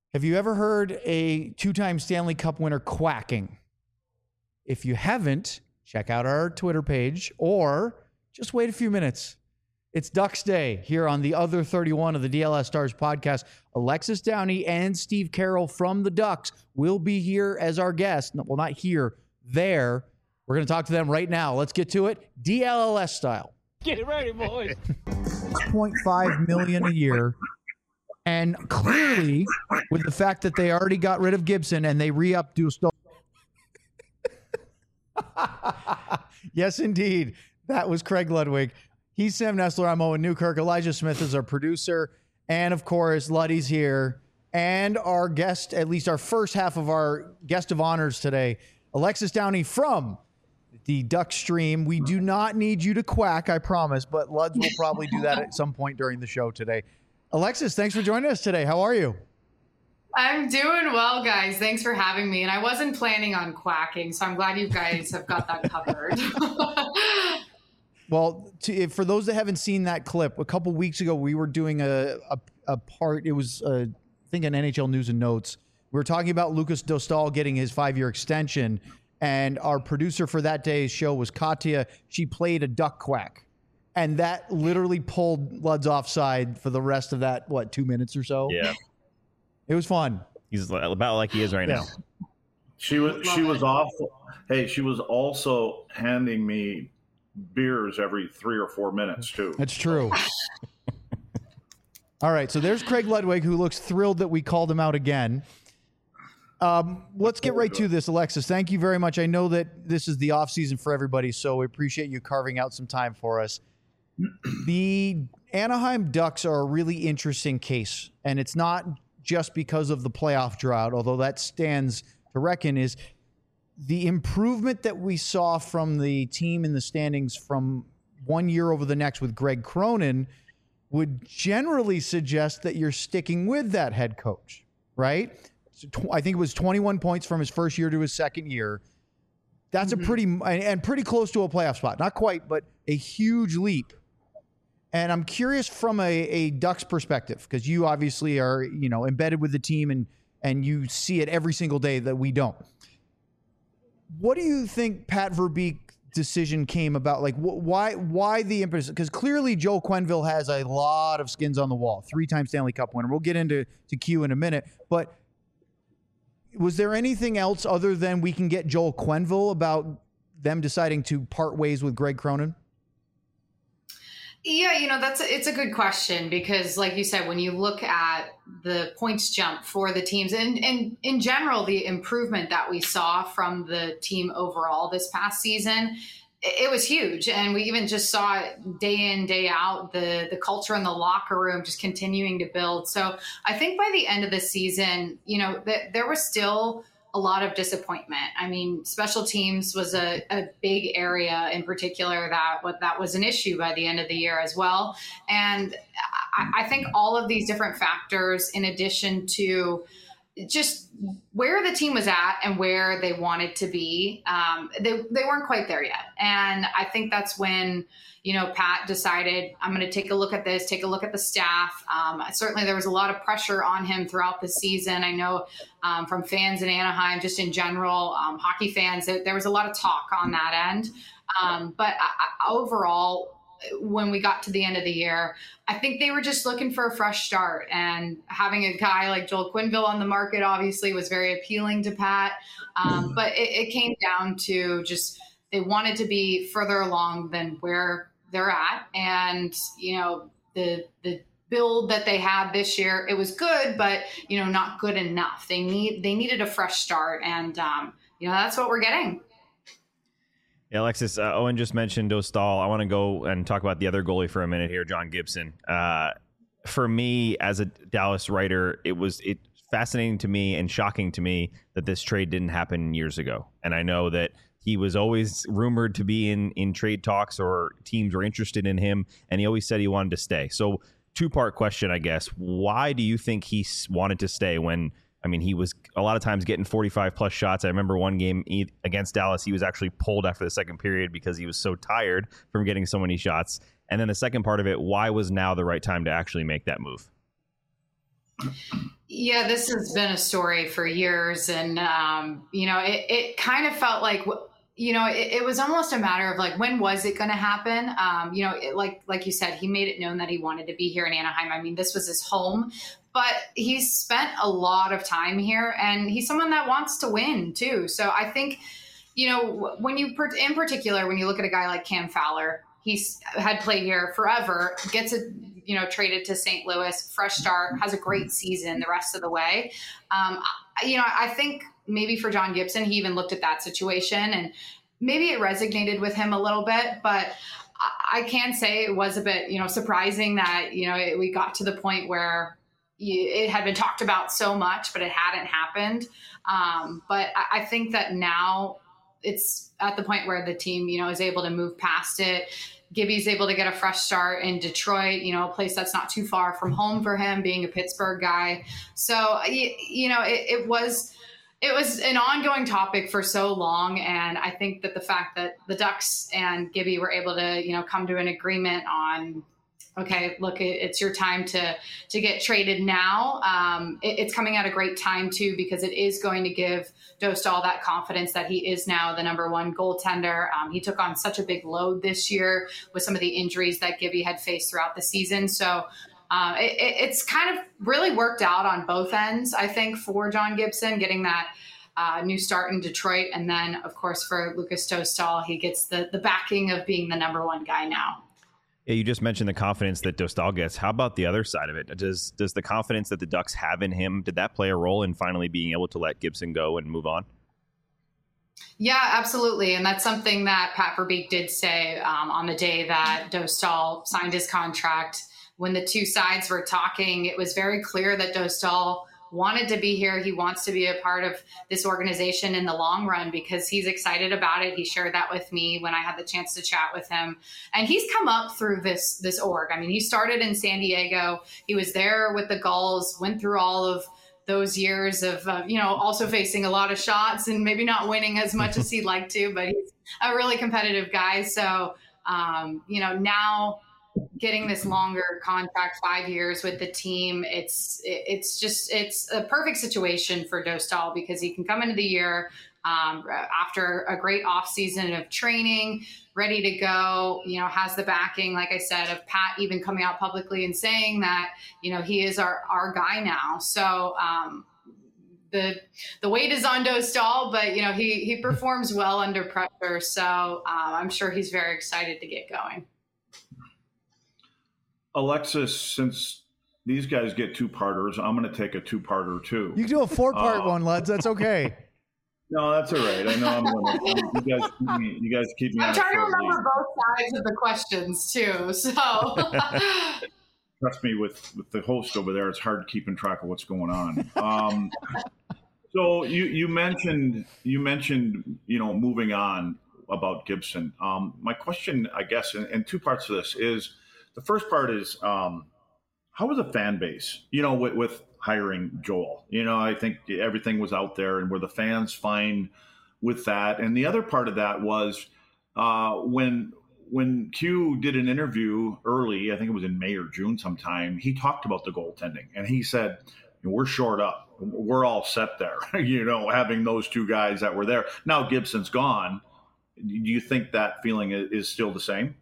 Have you ever heard a two-time Stanley Cup winner quacking? If you haven't, check out our Twitter page or just wait a few minutes. It's Ducks Day here on the other 31 of the DLS Stars podcast. Alexis Downey and Steve Carroll from the Ducks will be here as our guests. Well, not here, there. We're going to talk to them right now. Let's get to it. DLLS style. Get ready, boys. $6.5 million a year. And clearly, with the fact that they already got rid of Gibson and they re-upped Dostal. Yes, indeed. That was Craig Ludwig. He's Sam Nestler. I'm Owen Newkirk. Elijah Smith is our producer. And, of course, Luddy's here. And our guest, at least our first half of our guest of honors today, Alexis Downey from the Duck Stream. We do not need you to quack, I promise, but Luds will probably do that at some point during the show today. Alexis, thanks for joining us today. How are you? I'm doing well, guys. Thanks for having me. And I wasn't planning on quacking, so I'm glad you guys have got that covered. Well, for those that haven't seen that clip, a couple weeks ago, we were doing a part. It was, I think, an NHL News and Notes. We were talking about Lukas Dostal getting his 5-year extension, and our producer for that day's show was Katya. She played a duck quack. And that literally pulled Luds offside for the rest of that, 2 minutes or so? Yeah. It was fun. He's about like he is right now. She was awful. Hey, she was also handing me beers every 3 or 4 minutes, too. That's true. All right, so there's Craig Ludwig, who looks thrilled that we called him out again. Let's get right to this, Alexis. Thank you very much. I know that this is the off season for everybody, so we appreciate you carving out some time for us. The Anaheim Ducks are a really interesting case, and it's not just because of the playoff drought, although that stands to reckon, is the improvement that we saw from the team in the standings from one year over the next with Greg Cronin would generally suggest that you're sticking with that head coach, right? So I think it was 21 points from his first year to his second year. That's a pretty close to a playoff spot. Not quite, but a huge leap. And I'm curious from a Ducks perspective, because you obviously are, embedded with the team and you see it every single day that we don't. What do you think Pat Verbeek's decision came about? Like, why the impetus? Because clearly Joel Quenneville has a lot of skins on the wall. 3-time Stanley Cup winner. We'll get into Q in a minute. But was there anything else other than we can get Joel Quenneville about them deciding to part ways with Greg Cronin? Yeah, it's a good question because, like you said, when you look at the points jump for the teams and in general, the improvement that we saw from the team overall this past season, it was huge. And we even just saw it day in, day out, the culture in the locker room just continuing to build. So I think by the end of the season, there was still a lot of disappointment. I mean, special teams was a big area in particular that was an issue by the end of the year as well. And I think all of these different factors, in addition to just where the team was at and where they wanted to be, they weren't quite there yet. And I think that's when, Pat decided, I'm going to take a look at this, take a look at the staff. Certainly there was a lot of pressure on him throughout the season. I know from fans in Anaheim, just in general, hockey fans, there was a lot of talk on that end. But overall, when we got to the end of the year, I think they were just looking for a fresh start, and having a guy like Joel Quenneville on the market obviously was very appealing to Pat. But it came down to just, they wanted to be further along than where they're at. And, the build that they had this year, it was good, but, not good enough. They needed a fresh start. And, that's what we're getting. Yeah, Alexis, Owen just mentioned Dostal. I want to go and talk about the other goalie for a minute here, John Gibson. For me, as a Dallas writer, it's fascinating to me and shocking to me that this trade didn't happen years ago. And I know that he was always rumored to be in trade talks or teams were interested in him, and he always said he wanted to stay. So two-part question, I guess. Why do you think he wanted to stay when, he was a lot of times getting 45-plus shots? I remember one game against Dallas, he was actually pulled after the second period because he was so tired from getting so many shots. And then the second part of it, why was now the right time to actually make that move? Yeah, this has been a story for years. And, it kind of felt like, it was almost a matter of like, when was it going to happen? Like you said, he made it known that he wanted to be here in Anaheim. I mean, this was his home, but he's spent a lot of time here, and he's someone that wants to win too. So I think, when you, in particular, when you look at a guy like Cam Fowler, he's had played here forever, gets traded to St. Louis, fresh start, has a great season the rest of the way. I think maybe for John Gibson, he even looked at that situation and maybe it resonated with him a little bit, but I can say it was a bit, surprising that, we got to the point where it had been talked about so much, but it hadn't happened. But I think that now it's at the point where the team, is able to move past it. Gibby's able to get a fresh start in Detroit, a place that's not too far from home for him, being a Pittsburgh guy. So, it was an ongoing topic for so long. And I think that the fact that the Ducks and Gibby were able to, come to an agreement on, okay, look, it's your time to get traded now. It's coming at a great time too, because it is going to give Dostal that confidence that he is now the number one goaltender. He took on such a big load this year with some of the injuries that Gibby had faced throughout the season. So it's kind of really worked out on both ends, I think, for John Gibson, getting that new start in Detroit. And then, of course, for Lukas Dostal, he gets the backing of being the number one guy now. Yeah, you just mentioned the confidence that Dostal gets. How about the other side of it? Does the confidence that the Ducks have in him, did that play a role in finally being able to let Gibson go and move on? Yeah, absolutely. And that's something that Pat Verbeek did say on the day that Dostal signed his contract. When the two sides were talking, it was very clear that Dostal wanted to be here. He wants to be a part of this organization in the long run because he's excited about it. He shared that with me when I had the chance to chat with him. And he's come up through this org. I mean, he started in San Diego. He was there with the Gulls, went through all of those years of, also facing a lot of shots and maybe not winning as much as he'd like to, but he's a really competitive guy. So, now getting this longer contract, 5 years with the team, it's a perfect situation for Dostal because he can come into the year after a great off season of training, ready to go, has the backing, like I said, of Pat even coming out publicly and saying that, he is our guy now. So, the weight is on Dostal, but he performs well under pressure. So I'm sure he's very excited to get going. Alexis, since these guys get two-parters, I'm going to take a two-parter too. You can do a four-part one, lads. That's okay. No, that's all right. I know I'm limited. You guys keep me. I'm trying to remember both sides of the questions too. So trust me, with the host over there, it's hard keeping track of what's going on. So you mentioned moving on about Gibson. My question, I guess, in two parts of this is. The first part is, how was the fan base, with hiring Joel? I think everything was out there, and were the fans fine with that? And the other part of that was when Q did an interview early, I think it was in May or June sometime, he talked about the goaltending, and he said, we're short up. We're all set there, having those two guys that were there. Now Gibson's gone. Do you think that feeling is still the same?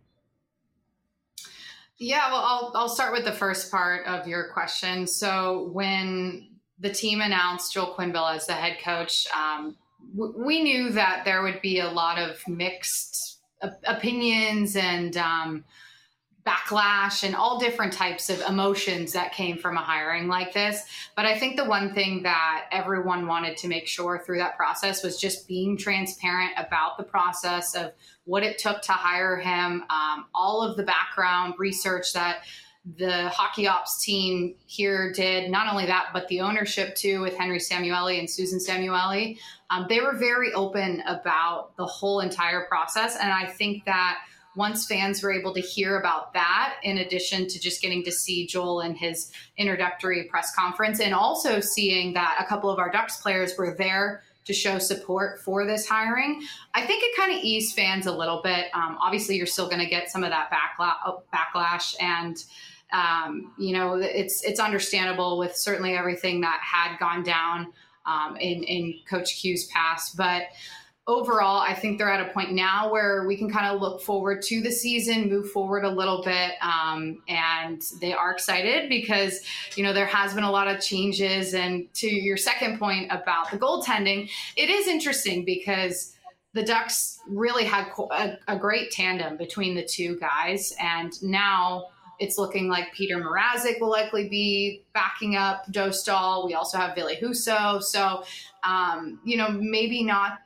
Yeah, well, I'll start with the first part of your question. So when the team announced Joel Quenneville as the head coach, we knew that there would be a lot of mixed opinions and backlash and all different types of emotions that came from a hiring like this. But I think the one thing that everyone wanted to make sure through that process was just being transparent about the process of what it took to hire him, all of the background research that the hockey ops team here did. Not only that, but the ownership too, with Henry Samueli and Susan Samueli. They were very open about the whole entire process. And I think that once fans were able to hear about that, in addition to just getting to see Joel in his introductory press conference, and also seeing that a couple of our Ducks players were there to show support for this hiring, I think it kind of eased fans a little bit. Obviously, you're still going to get some of that backlash. And It's understandable with certainly everything that had gone down in Coach Q's past, but overall, I think they're at a point now where we can kind of look forward to the season, move forward a little bit. And they are excited because, there has been a lot of changes. And to your second point about the goaltending, it is interesting because the Ducks really had a great tandem between the two guys. And now it's looking like Peter Mrazek will likely be backing up Dostal. We also have Ville Husso. So, maybe not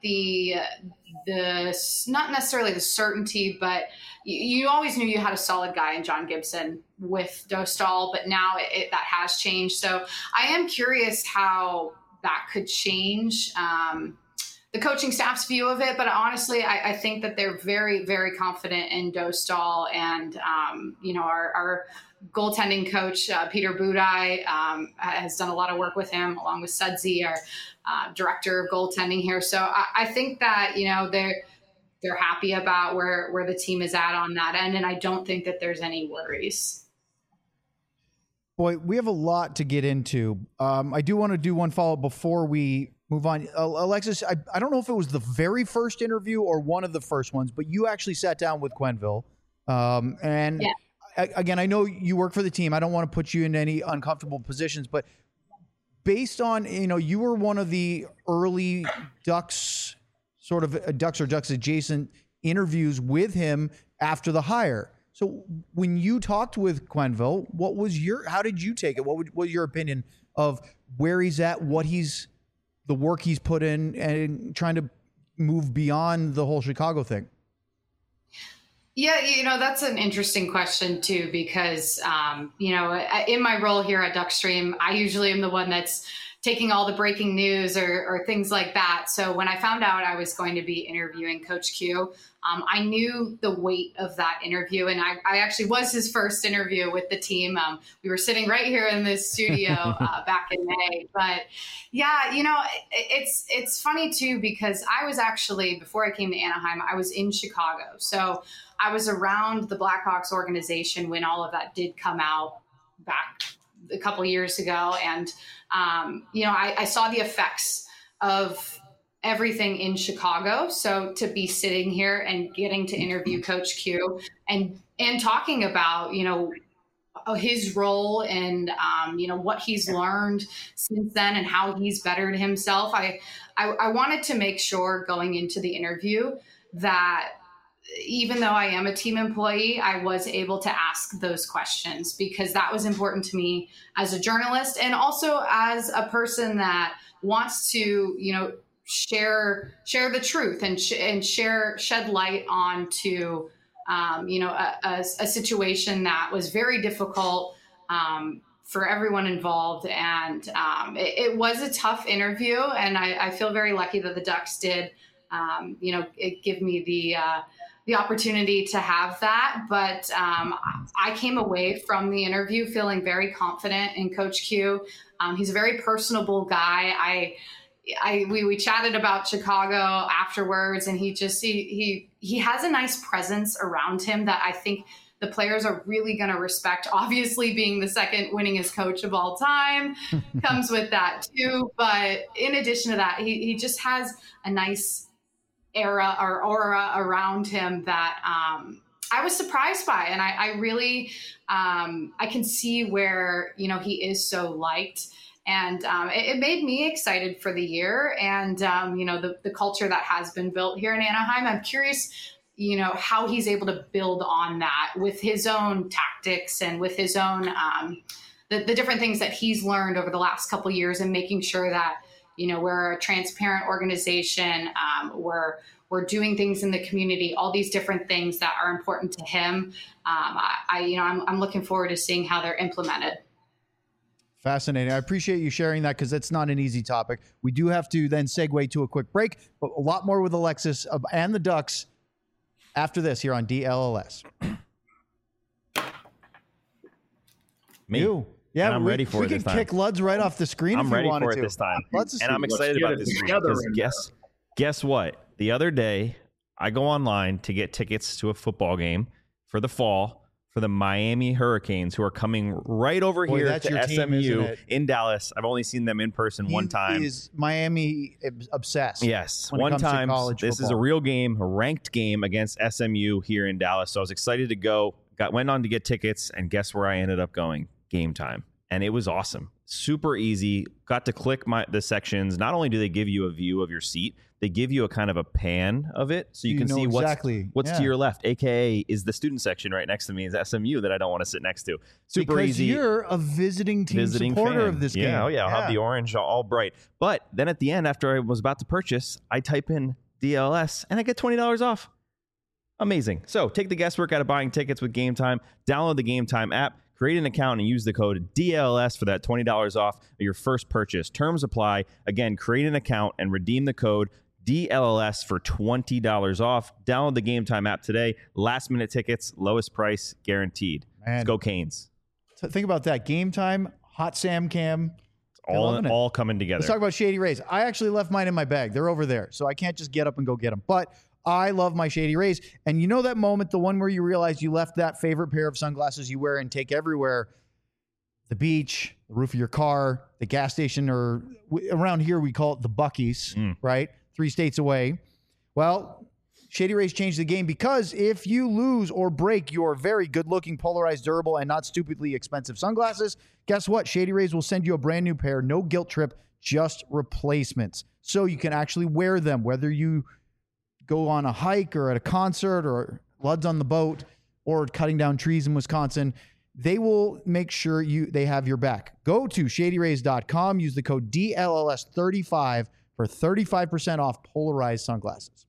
not necessarily the certainty, but you always knew you had a solid guy in John Gibson with Dostal, but now that has changed. So I am curious how that could change the coaching staff's view of it. But honestly, I think that they're very, very confident in Dostal and, our goaltending coach, Peter Budaj, has done a lot of work with him along with Sudsy, our director of goaltending here. So I think that, they're happy about where the team is at on that end. And I don't think that there's any worries. Boy, we have a lot to get into. I do want to do one follow-up before we move on. Alexis, I don't know if it was the very first interview or one of the first ones, but you actually sat down with Quenneville. And yeah. Again, I know you work for the team. I don't want to put you in any uncomfortable positions, but based on, you were one of the early Ducks, sort of Ducks or Ducks adjacent interviews with him after the hire. So when you talked with Quenneville, how did you take it? What was your opinion of where he's at, the work he's put in and trying to move beyond the whole Chicago thing? Yeah, that's an interesting question too, because, in my role here at Duckstream, I usually am the one that's taking all the breaking news or things like that. So when I found out I was going to be interviewing Coach Q, I knew the weight of that interview. And I actually was his first interview with the team. We were sitting right here in this studio back in May. But yeah, it's funny too, because I was actually, before I came to Anaheim, I was in Chicago. So I was around the Blackhawks organization when all of that did come out back a couple of years ago. And, I saw the effects of everything in Chicago. So to be sitting here and getting to interview Coach Q and talking about, his role and, what he's learned since then and how he's bettered himself. I wanted to make sure going into the interview that even though I am a team employee, I was able to ask those questions because that was important to me as a journalist and also as a person that wants to, share the truth and shed light onto, a situation that was very difficult for everyone involved. And it was a tough interview. And I feel very lucky that the Ducks did, give me the opportunity to have that. But I came away from the interview feeling very confident in Coach Q. He's a very personable guy. We chatted about Chicago afterwards, and he has a nice presence around him that I think the players are really going to respect. Obviously, being the second winningest coach of all time comes with that too. But in addition to that, he just has a nice aura around him that I was surprised by. And I really, I can see where, he is so liked. And it made me excited for the year and, the culture that has been built here in Anaheim. I'm curious, how he's able to build on that with his own tactics and with his own, the different things that he's learned over the last couple of years and making sure that, we're a transparent organization. We're doing things in the community, all these different things that are important to him. I'm looking forward to seeing how they're implemented. Fascinating. I appreciate you sharing that because it's not an easy topic. We do have to then segue to a quick break, but a lot more with Alexis and the Ducks after this here on DLLS. Me. You. Yeah, and I'm ready for it this time. We could kick Luds right off the screen if you wanted to. I'm ready for it this time. And I'm excited about this because guess what? The other day, I go online to get tickets to a football game for the fall for the Miami Hurricanes, who are coming right over Boy, here that's to your team, isn't SMU it? in Dallas. I've only seen them in person one time. He is Miami obsessed. Yes, when it one comes to time. college This is a football. real game, a ranked game against SMU here in Dallas. So I was excited to go. Went on to get tickets, and guess where I ended up going? Game Time. And it was awesome. Super easy. Got to click the sections. Not only do they give you a view of your seat, they give you a kind of a pan of it, so you can know see exactly. what's Yeah. to your left. AKA is the student section right next to me is SMU that I don't want to sit next to. Super because easy. you're a visiting team supporter fan of this game. Yeah, oh yeah, I'll have the orange all bright. But then at the end, after I was about to purchase, I type in DLS and I get $20 off. Amazing. So take the guesswork out of buying tickets with Game Time. Download the Game Time app, create an account, and use the code DLS for that $20 off of your first purchase. Terms apply. Again, create an account and redeem the code DLS for $20 off. Download the Game Time app today. Last minute tickets, lowest price guaranteed. Man. Let's go Canes. So think about that. Game Time, Hot Sam Cam. They're loving it. All coming together. Let's talk about Shady Rays. I actually left mine in my bag. They're over there, so I can't just get up and go get them. But I love my Shady Rays. And you know that moment, the one where you realize you left that favorite pair of sunglasses you wear and take everywhere, the beach, the roof of your car, the gas station, or around here we call it the Buc-ee's, right? 3 states away. Well, Shady Rays changed the game because if you lose or break your very good-looking, polarized, durable, and not stupidly expensive sunglasses, guess what? Shady Rays will send you a brand new pair, no guilt trip, just replacements. So you can actually wear them, whether you go on a hike or at a concert or Luds on the boat or cutting down trees in Wisconsin. They will make sure they have your back. Go to shadyrays.com. Use the code DLLS35 for 35% off polarized sunglasses.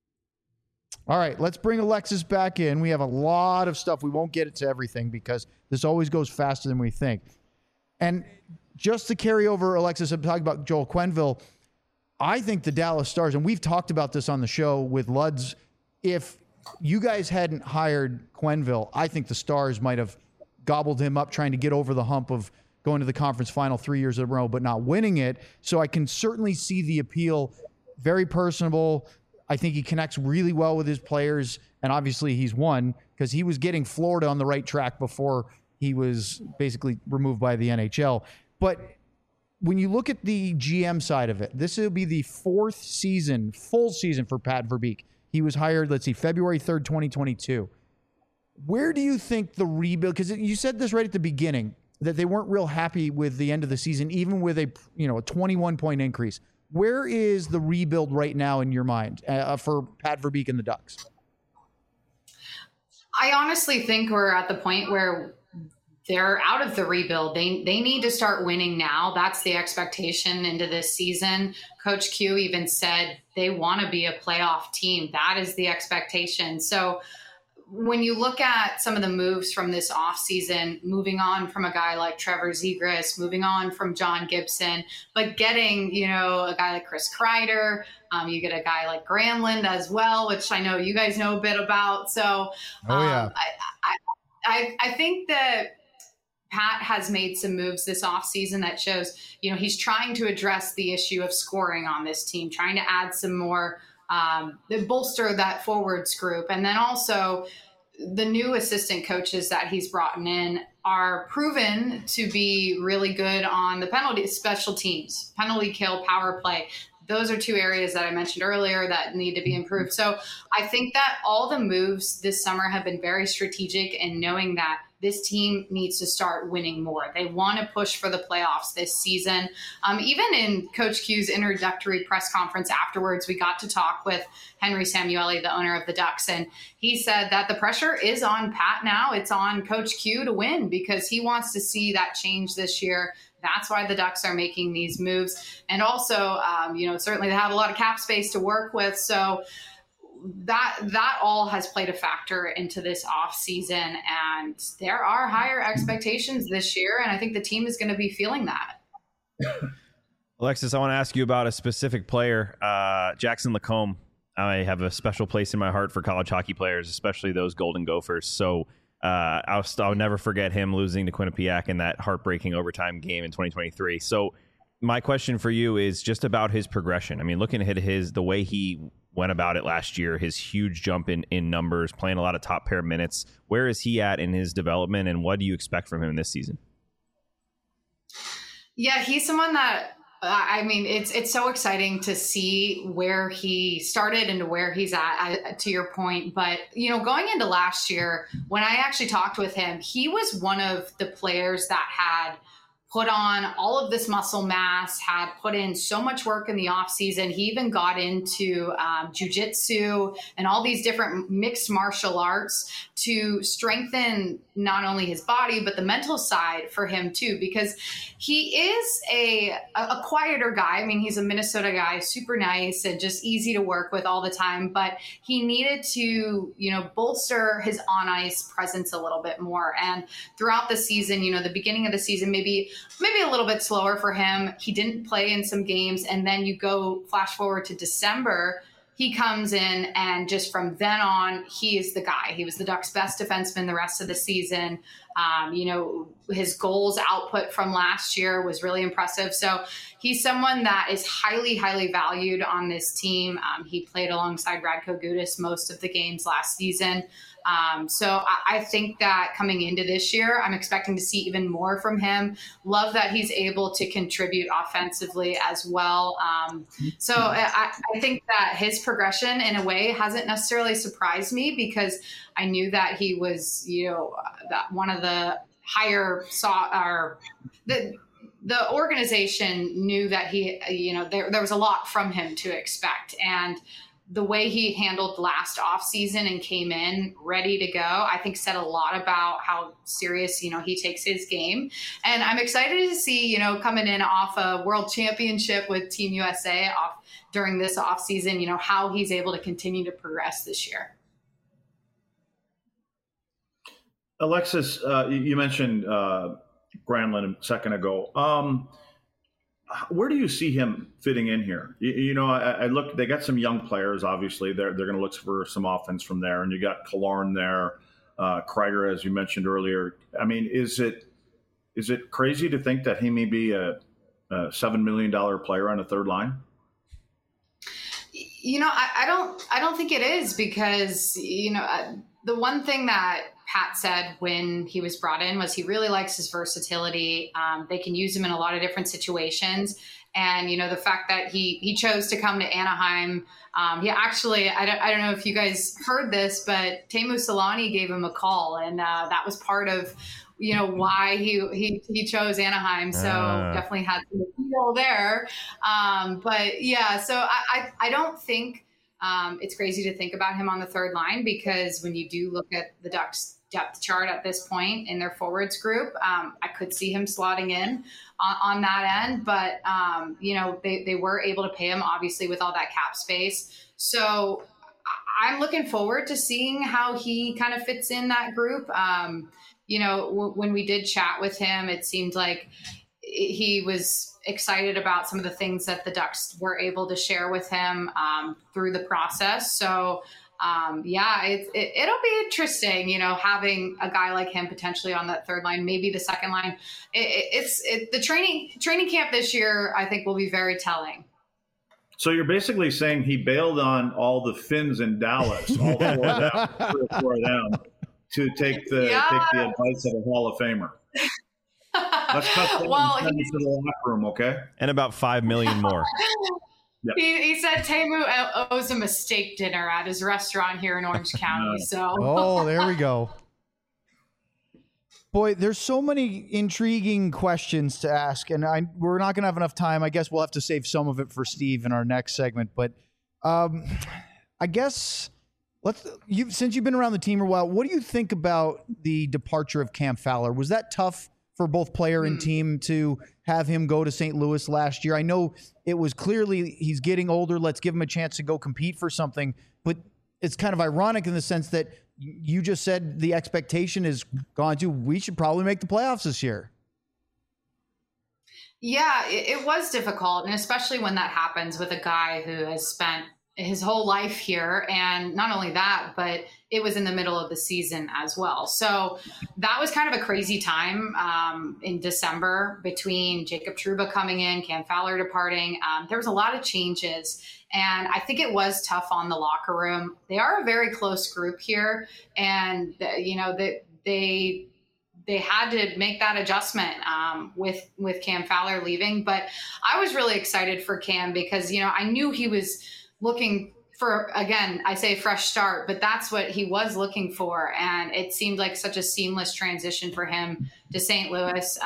All right, let's bring Alexis back in. We have a lot of stuff. We won't get it to everything because this always goes faster than we think. And just to carry over, Alexis, I'm talking about Joel Quenneville. I think the Dallas Stars, and we've talked about this on the show with Luds, if you guys hadn't hired Quenneville, I think the Stars might have gobbled him up trying to get over the hump of going to the conference final 3 years in a row, but not winning it. So I can certainly see the appeal. Very personable. I think he connects really well with his players, and obviously he's won because he was getting Florida on the right track before he was basically removed by the NHL. But when you look at the GM side of it, this will be the 4th season, full season for Pat Verbeek. He was hired, February 3rd, 2022. Where do you think the rebuild, because you said this right at the beginning, that they weren't real happy with the end of the season, even with a 21-point increase. Where is the rebuild right now in your mind for Pat Verbeek and the Ducks? I honestly think we're at the point where they're out of the rebuild. They need to start winning now. That's the expectation into this season. Coach Q even said they want to be a playoff team. That is the expectation. So when you look at some of the moves from this offseason, moving on from a guy like Trevor Zegras, moving on from John Gibson, but getting, a guy like Chris Kreider, you get a guy like Granlund as well, which I know you guys know a bit about. So I think that Pat has made some moves this offseason that shows, he's trying to address the issue of scoring on this team, trying to add some more bolster that forwards group. And then also the new assistant coaches that he's brought in are proven to be really good on the penalty special teams, penalty kill, power play. Those are 2 areas that I mentioned earlier that need to be improved. So I think that all the moves this summer have been very strategic in knowing that this team needs to start winning more. They want to push for the playoffs this season. Even in Coach Q's introductory press conference afterwards, we got to talk with Henry Samueli, the owner of the Ducks, and he said that the pressure is on Pat now. It's on Coach Q to win because he wants to see that change this year. That's why the Ducks are making these moves. And also, certainly they have a lot of cap space to work with. So that all has played a factor into this offseason. And there are higher expectations this year. And I think the team is going to be feeling that. Alexis, I want to ask you about a specific player, Jackson Lacombe. I have a special place in my heart for college hockey players, especially those Golden Gophers. So I'll never forget him losing to Quinnipiac in that heartbreaking overtime game in 2023. So my question for you is just about his progression. I mean, looking at the way he went about it last year, his huge jump in numbers, playing a lot of top pair minutes. Where is he at in his development, and what do you expect from him this season? Yeah, he's someone that, I mean, it's so exciting to see where he started and to where he's at, to your point. But, you know, going into last year, when I actually talked with him, he was one of the players that had put on all of this muscle mass, had put in so much work in the off season. He even got into jujitsu and all these different mixed martial arts to strengthen not only his body, but the mental side for him too, because he is a quieter guy. I mean, he's a Minnesota guy, super nice and just easy to work with all the time, but he needed to, you know, bolster his on ice presence a little bit more. And throughout the season, you know, the beginning of the season, maybe a little bit slower for him. He didn't play in some games. And then you go flash forward to December, he comes in, and just from then on, he is the guy. He was the Ducks' best defenseman the rest of the season. You know, his goals output from last year was really impressive. So he's someone that is highly, highly valued on this team. He played alongside Radko Gudas most of the games last season. So I think that coming into this year, I'm expecting to see even more from him. Love that he's able to contribute offensively as well. So I think that his progression in a way hasn't necessarily surprised me, because I knew that he was, you know, that one of the higher the organization knew that he, you know, there was a lot from him to expect. And the way he handled last offseason and came in ready to go, I think said a lot about how serious, you know, he takes his game. And I'm excited to see, you know, coming in off a world championship with Team USA off during this offseason, you know, how he's able to continue to progress this year. Alexis, you mentioned Granlund a second ago. Where do you see him fitting in here? You know, I look. They got some young players. Obviously, they're going to look for some offense from there, and you got Killorn there, Kreider, as you mentioned earlier. I mean, is it crazy to think that he may be a $7 million player on the third line? You know, I don't think it is, because, you know, the one thing that Pat said when he was brought in was he really likes his versatility. They can use him in a lot of different situations. And, you know, the fact that he chose to come to Anaheim, he actually, I don't know if you guys heard this, but Teemu Selanne gave him a call, and that was part of, you know, why he chose Anaheim. So definitely had some appeal there. But yeah, so I don't think it's crazy to think about him on the third line, because when you do look at the Ducks depth chart at this point in their forwards group, I could see him slotting in on that end. But, you know, they were able to pay him, obviously, with all that cap space. So I'm looking forward to seeing how he kind of fits in that group. You know, when we did chat with him, it seemed like he was excited about some of the things that the Ducks were able to share with him through the process. So, yeah, it'll be interesting, you know, having a guy like him potentially on that third line, maybe the second line. The training camp this year, I think, will be very telling. So you're basically saying he bailed on all the Finns in Dallas, all four of them, to take the advice of a Hall of Famer. Let's cut that and send it to the locker room, okay? And about 5 million more. Yep. He said Teemu owes him a steak dinner at his restaurant here in Orange County. So, oh, there we go. Boy, there's so many intriguing questions to ask, and we're not going to have enough time. I guess we'll have to save some of it for Steve in our next segment. But I guess since you've been around the team a while, what do you think about the departure of Cam Fowler? Was that tough for both player and team to have him go to St. Louis last year? I know it was clearly he's getting older. Let's give him a chance to go compete for something. But it's kind of ironic in the sense that you just said the expectation is gone to, we should probably make the playoffs this year. Yeah, it was difficult. And especially when that happens with a guy who has spent his whole life here. And not only that, but it was in the middle of the season as well. So that was kind of a crazy time in December between Jacob Trouba coming in, Cam Fowler departing. There was a lot of changes. And I think it was tough on the locker room. They are a very close group here. And, they had to make that adjustment with Cam Fowler leaving. But I was really excited for Cam because, I knew he was looking for, again, I say fresh start, but that's what he was looking for. And it seemed like such a seamless transition for him to St. Louis.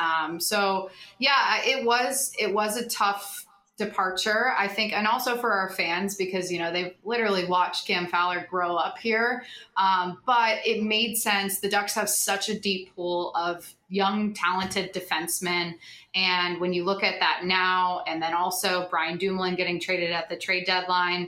It was a tough departure, I think, and also for our fans because, they've literally watched Cam Fowler grow up here. But it made sense. The Ducks have such a deep pool of young, talented defensemen. And when you look at that now, and then also Brian Dumoulin getting traded at the trade deadline,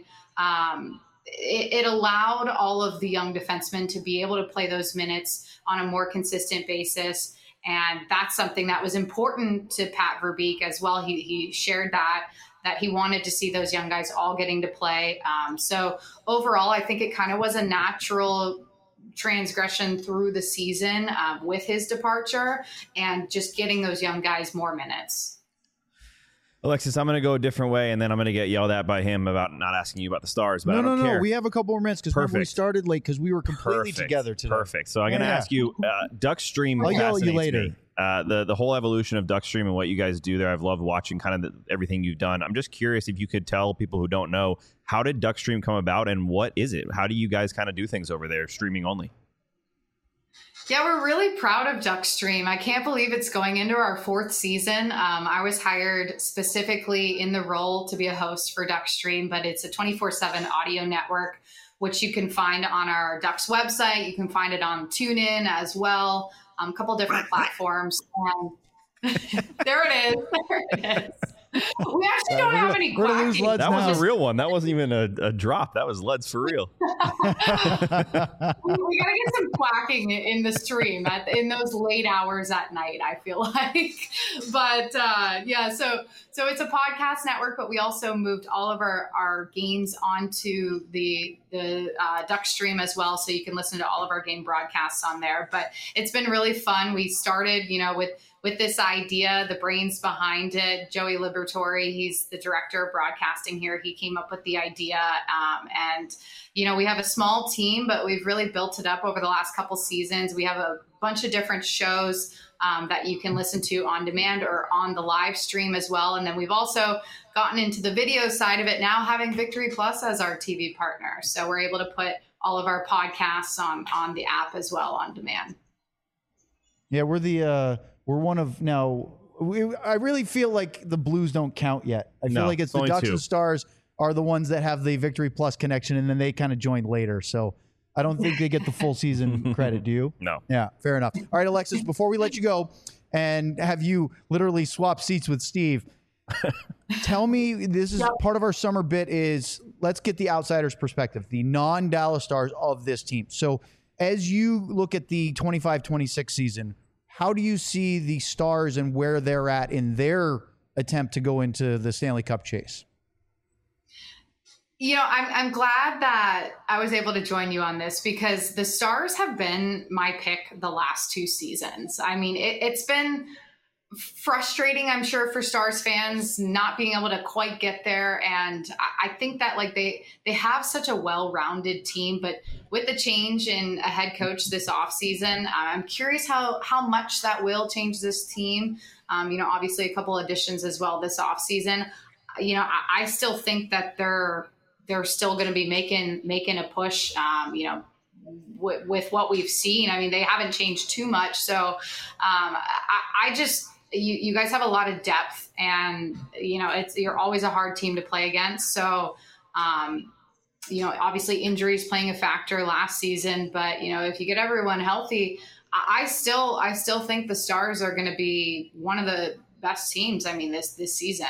it allowed all of the young defensemen to be able to play those minutes on a more consistent basis. And that's something that was important to Pat Verbeek as well. He shared that he wanted to see those young guys all getting to play. So overall, I think it kind of was a natural transgression through the season with his departure and just getting those young guys more minutes. Alexis, I'm going to go a different way, and then I'm going to get yelled at by him about not asking you about the Stars. But No. We have a couple more minutes because we started late because we were completely Perfect. together today. Perfect. So I'm going to ask you, Duckstream. I'll yell at you later. Me. The whole evolution of Duckstream and what you guys do there, I've loved watching kind of everything you've done. I'm just curious if you could tell people who don't know, how did Duckstream come about and what is it? How do you guys kind of do things over there, streaming only? Yeah, we're really proud of Duckstream. I can't believe it's going into our 4th season. I was hired specifically in the role to be a host for Duckstream, but it's a 24/7 audio network, which you can find on our Ducks website. You can find it on TuneIn as well, a couple different platforms. There it is. There it is. We actually don't have any quacking. That was a real one. That wasn't even a drop. That was Leds for real. We got to get some quacking in the stream in those late hours at night, I feel like. But so it's a podcast network, but we also moved all of our games onto the Duckstream as well. So you can listen to all of our game broadcasts on there. But it's been really fun. We started, with this idea, the brains behind it, Joey Liberatore, he's the director of broadcasting here. He came up with the idea. We have a small team, but we've really built it up over the last couple seasons. We have a bunch of different shows that you can listen to on demand or on the live stream as well. And then we've also gotten into the video side of it now, having Victory Plus as our TV partner. So we're able to put all of our podcasts on the app as well on demand. Yeah, we're one of now. I really feel like the Blues don't count yet. I feel like it's the Ducks and Stars are the ones that have the Victory Plus connection, and then they kind of join later. So I don't think they get the full season credit. Do you? No. Yeah, fair enough. All right, Alexis, before we let you go and have you literally swap seats with Steve, tell me, this is part of our summer bit is let's get the outsider's perspective, the non-Dallas Stars of this team. So as you look at the 25-26 season, how do you see the Stars and where they're at in their attempt to go into the Stanley Cup chase? I'm glad that I was able to join you on this because the Stars have been my pick the last 2 seasons. I mean, it's been frustrating, I'm sure, for Stars fans not being able to quite get there. And I think that they have such a well-rounded team, but with the change in a head coach this offseason, I'm curious how much that will change this team. Obviously a couple additions as well this offseason. I still think that they're still going to be making a push, with what we've seen. I mean, they haven't changed too much. So you guys have a lot of depth and, you're always a hard team to play against. So, obviously injuries playing a factor last season, but if you get everyone healthy, I still think the Stars are going to be one of the best teams. I mean, this season.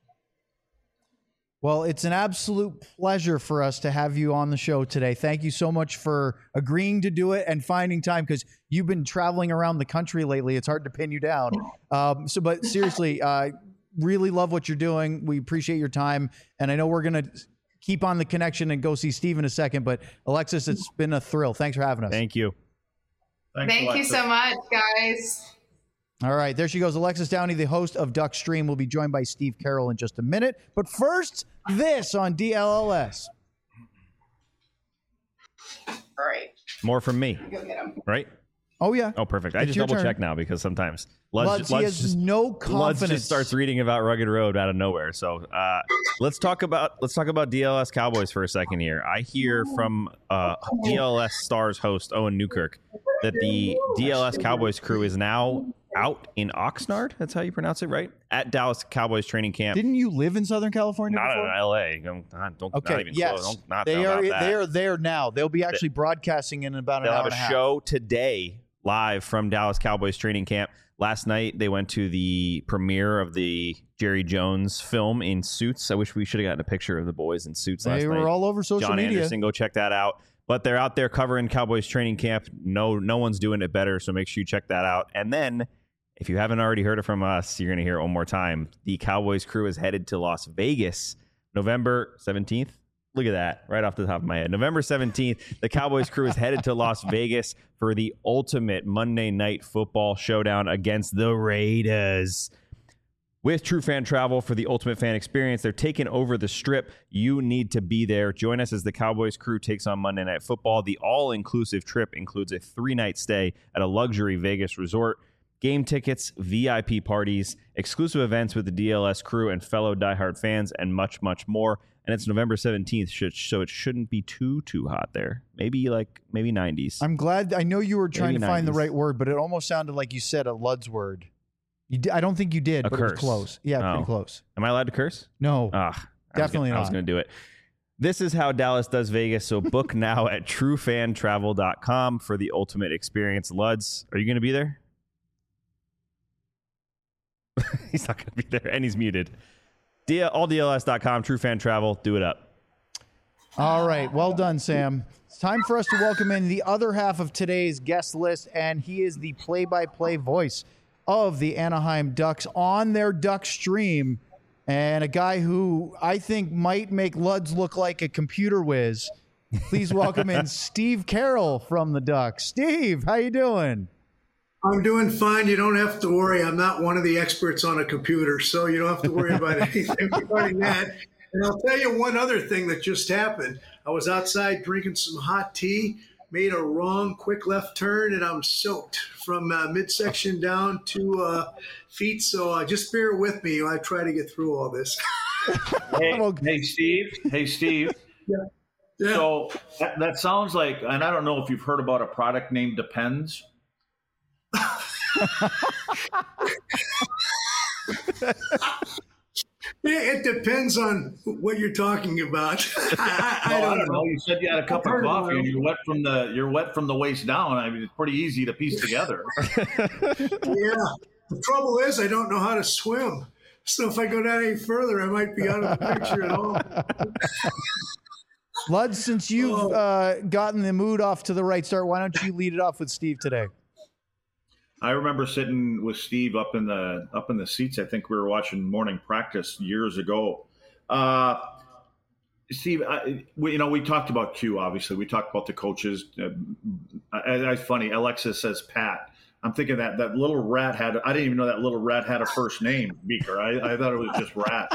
Well, it's an absolute pleasure for us to have you on the show today. Thank you so much for agreeing to do it and finding time because you've been traveling around the country lately. It's hard to pin you down. But seriously, really love what you're doing. We appreciate your time. And I know we're going to keep on the connection and go see Steve in a second. But Alexis, it's been a thrill. Thanks for having us. Thank you. Thank you so much, guys. All right, there she goes. Alexis Downey, the host of Duck Stream, will be joined by Steve Carroll in just a minute. But first, this on DLLS. All right. More from me. Go get him. Right? Oh, yeah. Oh, perfect. I It's just your double turn. check now because sometimes Luds, he has no confidence. Luds just starts reading about Rugged Road out of nowhere. So let's talk about DLS Cowboys for a second here. I hear from DLS Stars host Owen Newkirk that the DLS Cowboys crew is now out in Oxnard. That's how you pronounce it, right? At Dallas Cowboys training camp. Didn't you live in Southern California Not before? in LA. Don't Okay, not even yes. close. Don't they know are. about that. They are there now. They'll be actually broadcasting in about an They'll hour have and a a half. show today live from Dallas Cowboys training camp. Last night they went to the premiere of the Jerry Jones film in suits. I wish we should have gotten a picture of the boys in suits last They night. were all over social John media. Anderson, go check that out. But they're out there covering Cowboys training camp. No one's doing it better, so make sure you check that out. And then, if you haven't already heard it from us, you're going to hear it one more time. The Cowboys crew is headed to Las Vegas November 17th. Look at that, right off the top of my head. November 17th, the Cowboys crew is headed to Las Vegas for the ultimate Monday Night Football showdown against the Raiders. With True Fan Travel for the ultimate fan experience, they're taking over the Strip. You need to be there. Join us as the Cowboys crew takes on Monday Night Football. The all-inclusive trip includes a 3-night stay at a luxury Vegas resort, game tickets, VIP parties, exclusive events with the DLS crew and fellow diehard fans, and much, much more. And it's November 17th, so it shouldn't be too hot there. Maybe 90s. I'm glad. I know you were trying Maybe to find the 90s. right word, but it almost sounded like you said a Lud's word. I don't think you did, A but it was curse. close. Yeah, Oh. pretty close. Am I allowed to curse? No. I Definitely was not. going to do it. This is how Dallas does Vegas, so book now at truefantravel.com for the ultimate experience. Luds, are you going to be there? He's not going to be there, and he's muted. AllDLS.com, truefantravel, do it up. All right. Well done, Sam. It's time for us to welcome in the other half of today's guest list, and he is the play-by-play voice of the Anaheim Ducks on their Duck Stream, and a guy who I think might make Luds look like a computer whiz. Please welcome in Steve Carroll from the Ducks. Steve, how you doing? I'm doing fine. You don't have to worry. I'm not one of the experts on a computer, so you don't have to worry about anything regarding that. And I'll tell you one other thing that just happened. I was outside drinking some hot tea, made a wrong quick left turn, and I'm soaked from midsection down to feet. So just bear with me. I try to get through all this. Hey, Steve. Yeah. So that sounds like, and I don't know if you've heard about a product named Depends. It depends on what you're talking about. I I don't don't know. You said you had a cup of heard coffee about and it. you're wet from the waist down. I mean, it's pretty easy to piece together. Yeah. The trouble is, I don't know how to swim. So if I go down any further, I might be out of the picture at all. Lud, since you've gotten the mood off to the right start, why don't you lead it off with Steve today? I remember sitting with Steve up in the seats. I think we were watching morning practice years ago. Steve, we talked about Q. Obviously, we talked about the coaches. It's funny. Alexis says Pat. I'm thinking that little rat had. I didn't even know that little rat had a first name, Beaker. I thought it was just Rat.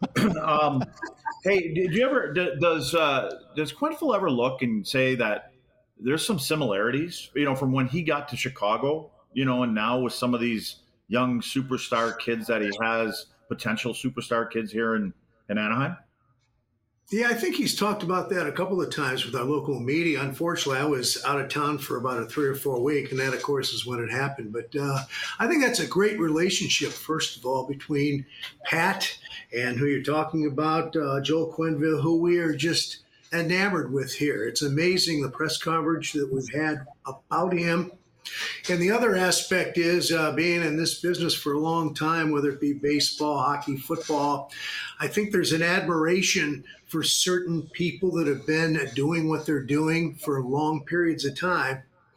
Hey, did you ever? Does Quenneville ever look and say that there's some similarities? From when he got to Chicago. And now with some of these young superstar kids that he has, potential superstar kids here in Anaheim? Yeah, I think he's talked about that a couple of times with our local media. Unfortunately, I was out of town for about a 3 or 4 week, and that, of course, is when it happened. But I think that's a great relationship, first of all, between Pat and who you're talking about, Joel Quenneville, who we are just enamored with here. It's amazing the press coverage that we've had about him. And the other aspect is being in this business for a long time, whether it be baseball, hockey, football, I think there's an admiration for certain people that have been doing what they're doing for long periods of time.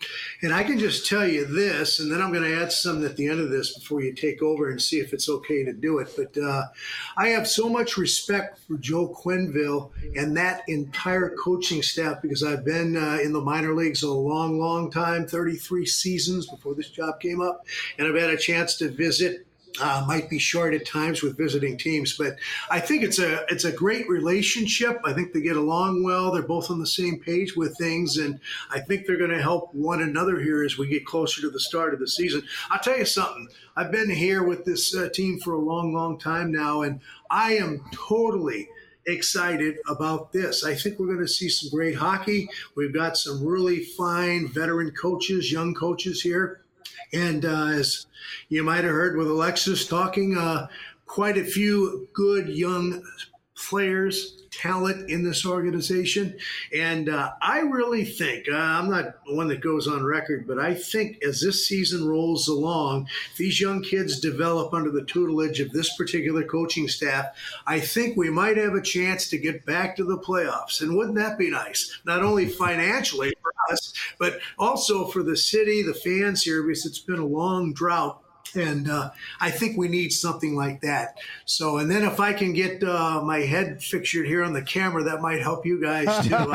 And I can just tell you this, and then I'm going to add something at the end of this before you take over and see if it's okay to do it. But I have so much respect for Joe Quenneville and that entire coaching staff because I've been in the minor leagues a long, long time, 33 seasons before this job came up. And I've had a chance to visit. Might be short at times with visiting teams, but I think it's a great relationship. I think they get along well. They're both on the same page with things, and I think they're going to help one another here as we get closer to the start of the season. I'll tell you something. I've been here with this team for a long, long time now, and I am totally excited about this. I think we're going to see some great hockey. We've got some really fine veteran coaches, young coaches here. And as you might have heard with Alexis talking, quite a few good young players, talent in this organization. And I really think, I'm not one that goes on record, but I think as this season rolls along, these young kids develop under the tutelage of this particular coaching staff, I think we might have a chance to get back to the playoffs. And wouldn't that be nice? Not only financially for us, but also for the city, the fans here, because it's been a long drought. And I think we need something like that. So, and then if I can get my head fixtured here on the camera, that might help you guys too.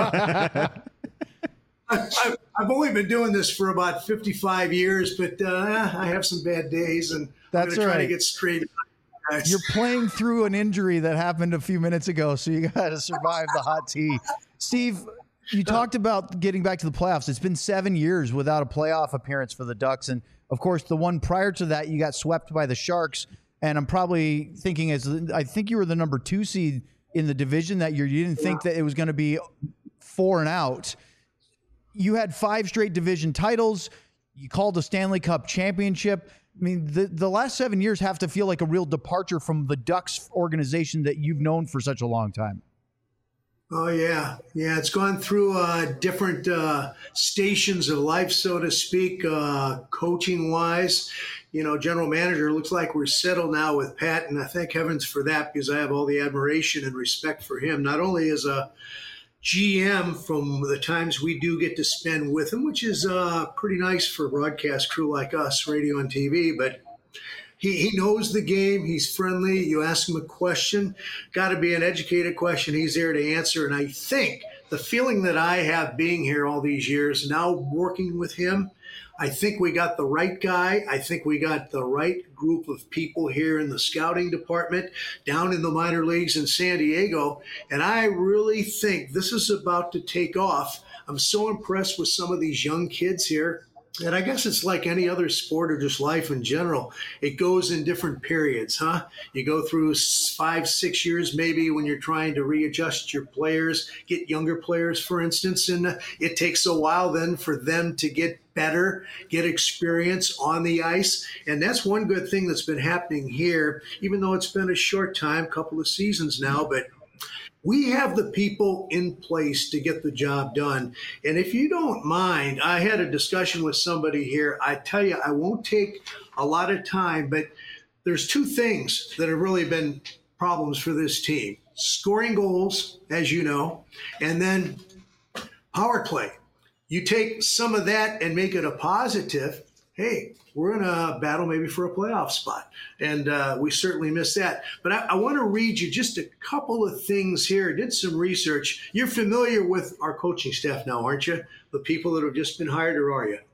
I've only been doing this for about 55 years, but I have some bad days, and I'm going to try to get straight. You're playing through an injury that happened a few minutes ago, so you got to survive the hot tea. Steve, you talked about getting back to the playoffs. It's been 7 years without a playoff appearance for the Ducks, and of course, the one prior to that, you got swept by the Sharks. And I'm probably thinking, I think you were the number 2 seed in the division that year. You didn't think that it was going to be 4 and out. You had 5 straight division titles. You called a Stanley Cup championship. I mean, the last 7 years have to feel like a real departure from the Ducks organization that you've known for such a long time. Oh, yeah. Yeah, it's gone through different stations of life, so to speak, coaching-wise. You know, general manager, looks like we're settled now with Pat, and I thank heavens for that because I have all the admiration and respect for him, not only as a GM from the times we do get to spend with him, which is pretty nice for a broadcast crew like us, radio and TV, but He knows the game. He's friendly. You ask him a question, got to be an educated question. He's there to answer. And I think the feeling that I have being here all these years, now working with him, I think we got the right guy. I think we got the right group of people here in the scouting department, down in the minor leagues in San Diego. And I really think this is about to take off. I'm so impressed with some of these young kids here. And I guess it's like any other sport or just life in general. It goes in different periods, huh? You go through 5-6 years maybe when you're trying to readjust your players, get younger players, for instance, and it takes a while then for them to get better, get experience on the ice. And that's one good thing that's been happening here, even though it's been a short time, couple of seasons now, but we have the people in place to get the job done. And if you don't mind, I had a discussion with somebody here. I tell you, I won't take a lot of time, but there's 2 things that have really been problems for this team. Scoring goals, as you know, and then power play. You take some of that and make it a positive. Hey, we're in a battle maybe for a playoff spot, and we certainly miss that. But I want to read you just a couple of things here. Did some research. You're familiar with our coaching staff now, aren't you? The people that have just been hired, or are you?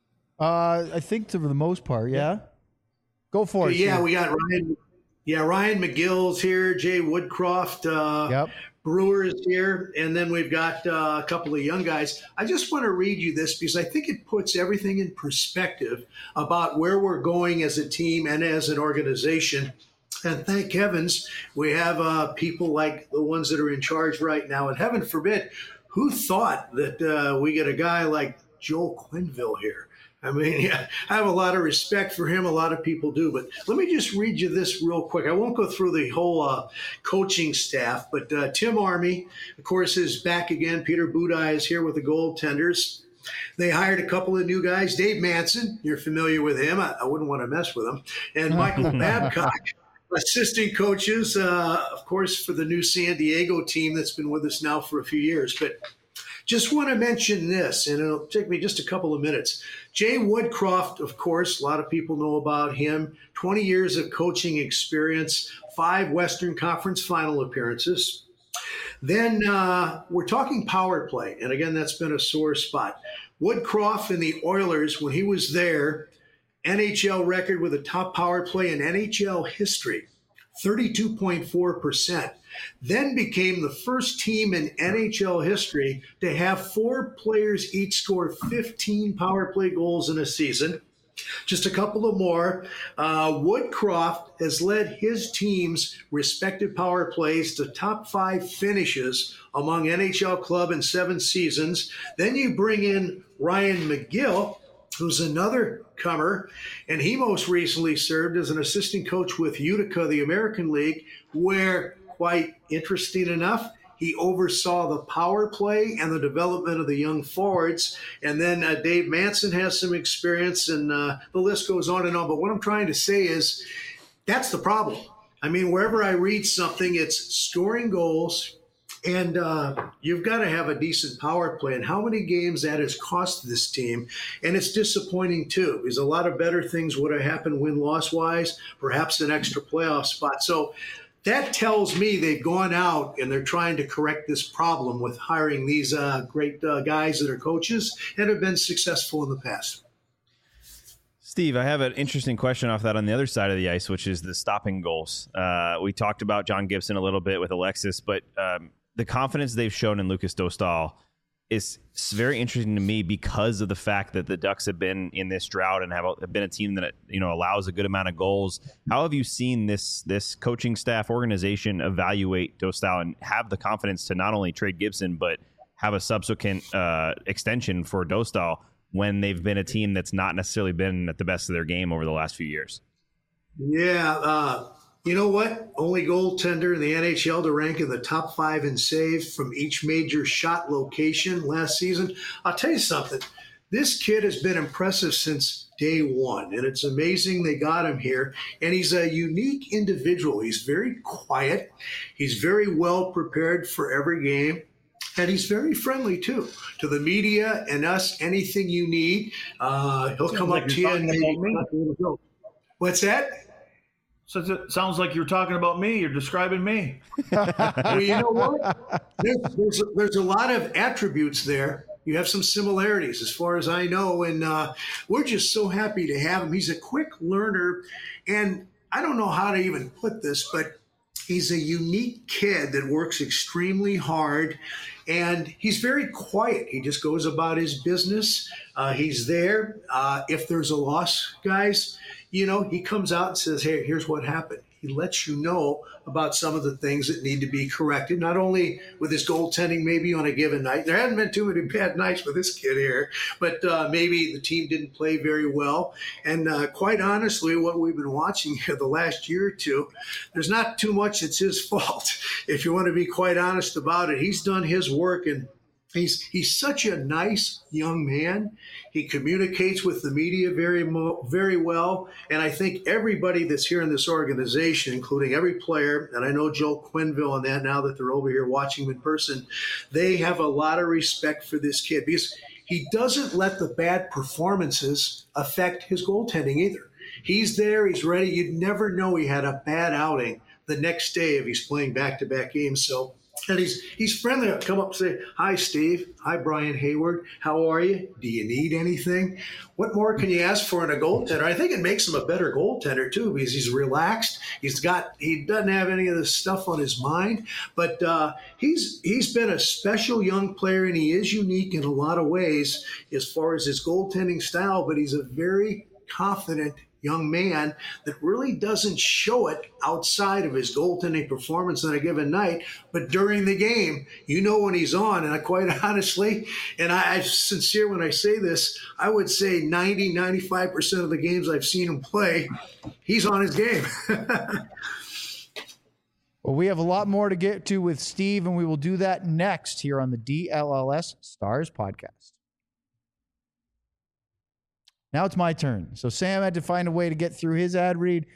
I think for the most part, yeah. Go for it. Yeah, Steve. we got Ryan. Yeah, Ryan McGill's here. Jay Woodcroft. Yep. Brewer is here, and then we've got a couple of young guys. I just want to read you this because I think it puts everything in perspective about where we're going as a team and as an organization. And thank heavens we have people like the ones that are in charge right now. And heaven forbid, who thought that we get a guy like Joe Quenneville here? I mean, yeah, I have a lot of respect for him. A lot of people do. But let me just read you this real quick. I won't go through the whole coaching staff, but Tim Army, of course, is back again. Peter Budaj is here with the goaltenders. They hired a couple of new guys. Dave Manson, you're familiar with him. I wouldn't want to mess with him. And Michael Babcock, assistant coaches, of course, for the new San Diego team that's been with us now for a few years. But Just want to mention this, and it'll take me just a couple of minutes. Jay Woodcroft, of course, a lot of people know about him. 20 years of coaching experience, 5 Western Conference final appearances. Then we're talking power play, and again, that's been a sore spot. Woodcroft and the Oilers, when he was there, NHL record with a top power play in NHL history, 32.4%. Then became the first team in NHL history to have 4 players each score 15 power play goals in a season. Just a couple of more. Woodcroft has led his team's respective power plays to top 5 finishes among NHL club in 7 seasons. Then you bring in Ryan McGill, who's another comer, and he most recently served as an assistant coach with Utica, the American League, where, quite interesting enough, he oversaw the power play and the development of the young forwards. And then Dave Manson has some experience, and the list goes on and on. But what I'm trying to say is that's the problem. I mean, wherever I read something, it's scoring goals, and you've got to have a decent power play. And how many games that has cost this team. And it's disappointing, too, because a lot of better things would have happened win-loss-wise, perhaps an extra playoff spot. So that tells me they've gone out and they're trying to correct this problem with hiring these great guys that are coaches and have been successful in the past. Steve, I have an interesting question off that on the other side of the ice, which is the stopping goals. We talked about John Gibson a little bit with Alexis, but the confidence they've shown in Lucas Dostal is very interesting to me because of the fact that the Ducks have been in this drought and have been a team that allows a good amount of goals. How have you seen this coaching staff organization evaluate Dostal and have the confidence to not only trade Gibson but have a subsequent extension for Dostal when they've been a team that's not necessarily been at the best of their game over the last few years? Yeah, you know what? Only goaltender in the NHL to rank in the top 5 in saves from each major shot location last season. I'll tell you something. This kid has been impressive since day one, and it's amazing they got him here. And he's a unique individual. He's very quiet. He's very well prepared for every game. And he's very friendly, too, to the media and us. Anything you need, he'll come up to you and what's that? So it sounds like you're talking about me. You're describing me. Well, you know what? There's a lot of attributes there. You have some similarities as far as I know, and we're just so happy to have him. He's a quick learner, and I don't know how to even put this, but he's a unique kid that works extremely hard, and he's very quiet. He just goes about his business. He's there. If there's a loss, guys, he comes out and says, hey, here's what happened. He lets you know about some of the things that need to be corrected, not only with his goaltending maybe on a given night. There hadn't been too many bad nights with this kid here, but maybe the team didn't play very well. And quite honestly, what we've been watching here the last year or two, there's not too much that's his fault. If you want to be quite honest about it, he's done his work, and he's such a nice young man. He communicates with the media very well. And I think everybody that's here in this organization, including every player, and I know Joel Quenneville and that now that they're over here watching him in person, they have a lot of respect for this kid because he doesn't let the bad performances affect his goaltending either. He's there. He's ready. You'd never know he had a bad outing the next day if he's playing back-to-back games. So, and he's friendly. He'll come up and say, hi, Steve. Hi, Brian Hayward. How are you? Do you need anything? What more can you ask for in a goaltender? I think it makes him a better goaltender, too, because he's relaxed. He doesn't have any of this stuff on his mind. But he's been a special young player, and he is unique in a lot of ways as far as his goaltending style. But he's a very confident young man that really doesn't show it outside of his goaltending performance on a given night. But during the game, when he's on. And I quite honestly, and I'm sincere when I say this, I would say 90-95% of the games I've seen him play, he's on his game. Well, we have a lot more to get to with Steve, and we will do that next here on the DLLS Stars podcast. Now it's my turn. So Sam had to find a way to get through his ad read.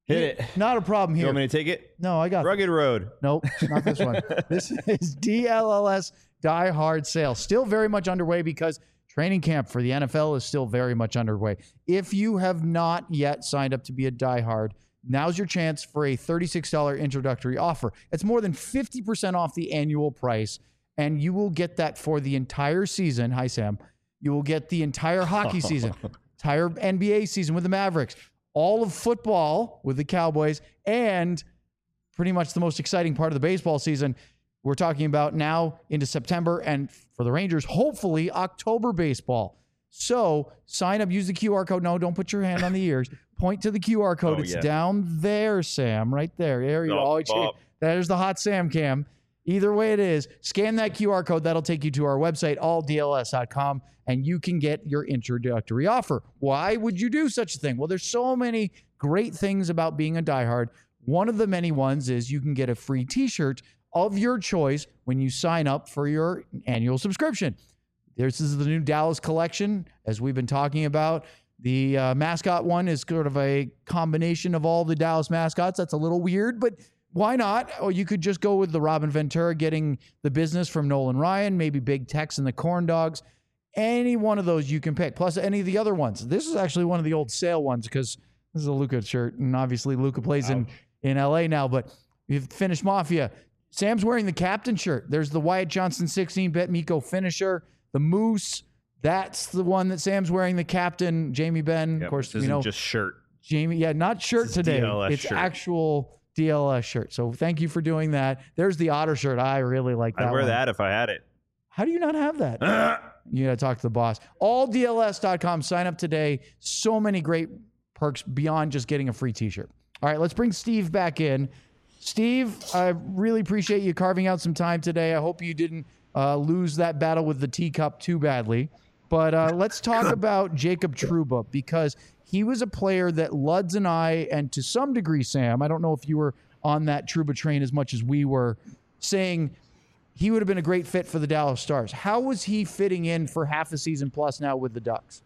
Hit it. Not a problem You here. want me to take it? No, I got this. Rugged Road. Nope, not this one. This is DLLS Die Hard sale. Still very much underway because training camp for the NFL is still very much underway. If you have not yet signed up to be a Die Hard, now's your chance for a $36 introductory offer. It's more than 50% off the annual price, and you will get that for the entire season. Hi, Sam. You will get the entire hockey season, entire NBA season with the Mavericks, all of football with the Cowboys, and pretty much the most exciting part of the baseball season. We're talking about now into September, and for the Rangers, hopefully October baseball. So sign up, use the QR code. No, don't put your hand on the ears. Point to the QR code. It's down there, Sam, right there. There you go. There's the hot Sam cam. Either way it is, scan that QR code. That'll take you to our website, alldls.com, and you can get your introductory offer. Why would you do such a thing? Well, there's so many great things about being a diehard. One of the many ones is you can get a free t-shirt of your choice when you sign up for your annual subscription. This is the new Dallas collection, as we've been talking about. The mascot one is sort of a combination of all the Dallas mascots. That's a little weird, but why not? Or you could just go with the Robin Ventura getting the business from Nolan Ryan, maybe Big Tex and the Corn Dogs. Any one of those you can pick, plus any of the other ones. This is actually one of the old sale ones because this is a Luka shirt, and obviously Luka plays in LA now, but we've finished Mafia. Sam's wearing the captain shirt. There's the Wyatt Johnson 16-bit Miko finisher, the Moose. That's the one that Sam's wearing, the captain, Jamie Benn. Of course, this isn't just shirt. Jamie, not shirt today. DLS it's shirt. Actual DLS shirt. So thank you for doing that. There's the Otter shirt. I really like that I'd wear one. that if I had it. How do you not have that? You got to talk to the boss. Alldls.com. Sign up today. So many great perks beyond just getting a free t-shirt. All right, let's bring Steve back in. Steve, I really appreciate you carving out some time today. I hope you didn't lose that battle with the teacup too badly. But let's talk about Jacob Trouba, because he was a player that Luds and I, and to some degree, Sam, I don't know if you were on that Trouba train as much as we were, saying he would have been a great fit for the Dallas Stars. How was he fitting in for half a season plus now with the Ducks?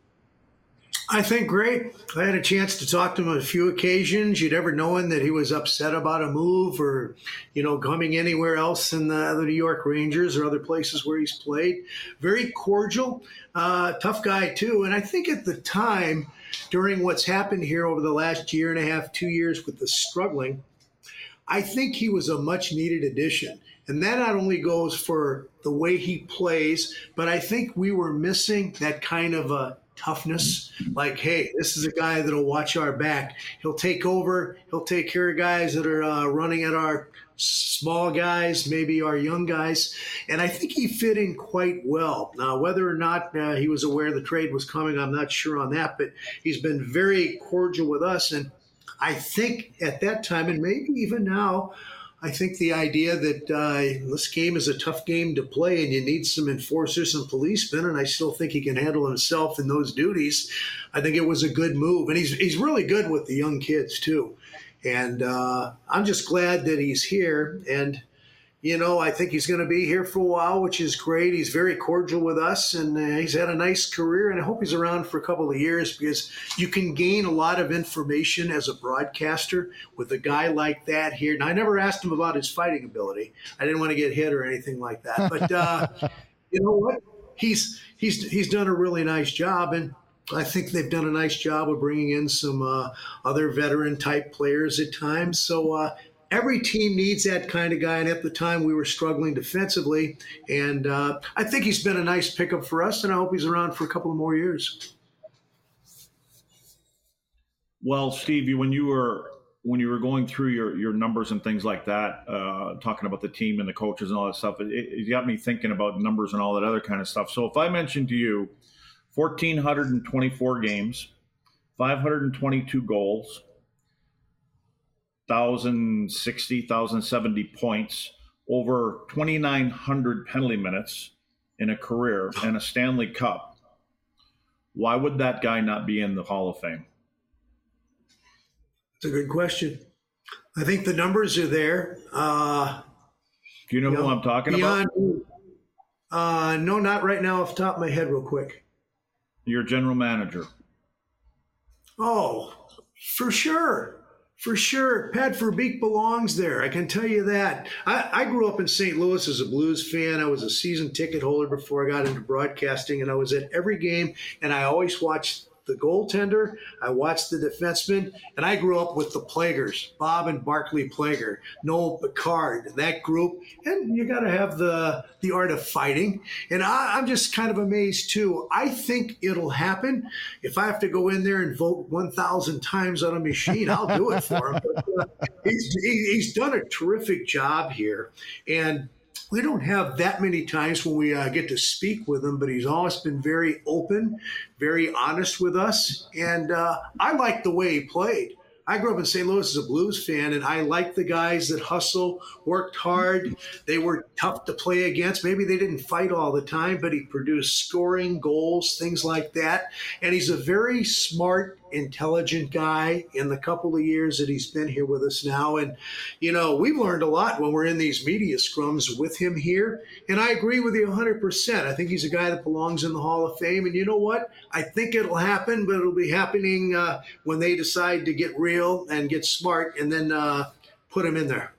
I think great. I had a chance to talk to him on a few occasions. You'd ever known that he was upset about a move or, coming anywhere else in the New York Rangers or other places where he's played. Very cordial, tough guy too. And I think at the time, during what's happened here over the last year and a half, 2 years with the struggling, I think he was a much needed addition. And that not only goes for the way he plays, but I think we were missing that kind of a toughness. Like, hey, this is a guy that'll watch our back. He'll take over. He'll take care of guys that are running at our small guys, maybe our young guys. And I think he fit in quite well. Now, whether or not he was aware the trade was coming, I'm not sure on that, but he's been very cordial with us. And I think at that time, and maybe even now, I think the idea that this game is a tough game to play and you need some enforcers and policemen, and I still think he can handle himself in those duties. I think it was a good move. And he's really good with the young kids, too. And I'm just glad that he's here. And, I think he's going to be here for a while, which is great. He's very cordial with us, and he's had a nice career. And I hope he's around for a couple of years, because you can gain a lot of information as a broadcaster with a guy like that here. And I never asked him about his fighting ability. I didn't want to get hit or anything like that. But you know what? He's done a really nice job, and I think they've done a nice job of bringing in some other veteran-type players at times. So every team needs that kind of guy, and at the time we were struggling defensively. And I think he's been a nice pickup for us, and I hope he's around for a couple of more years. Well, Steve, when you were going through your numbers and things like that, talking about the team and the coaches and all that stuff, it got me thinking about numbers and all that other kind of stuff. So if I mentioned to you 1,424 games, 522 goals, 1,060, 1,070 points, over 2,900 penalty minutes in a career, and a Stanley Cup, why would that guy not be in the Hall of Fame? It's a good question. I think the numbers are there. Do you know who I'm talking about? No, not right now off the top of my head real quick. Your general manager. Oh, for sure. For sure. Pat Verbeek belongs there. I can tell you that. I grew up in St. Louis as a Blues fan. I was a season ticket holder before I got into broadcasting, and I was at every game, and I always watched the goaltender. I watched the defenseman, and I grew up with the Plagers, Bob and Barclay Plager, Noel Picard, that group. And you got to have the art of fighting. And I'm just kind of amazed, too. I think it'll happen. If I have to go in there and vote 1,000 times on a machine, I'll do it for him. But, he's done a terrific job here. And we don't have that many times when we get to speak with him, but he's always been very open, very honest with us. And I like the way he played. I grew up in St. Louis as a Blues fan, and I like the guys that hustle, worked hard. They were tough to play against. Maybe they didn't fight all the time, but he produced scoring, goals, things like that. And he's a very smart, intelligent guy in the couple of years that he's been here with us now. And, you know, we've learned a lot when we're in these media scrums with him here. And I agree with you 100%. I think he's a guy that belongs in the Hall of Fame. And you know what? I think it'll happen, but it'll be happening when they decide to get real and get smart and then put him in there.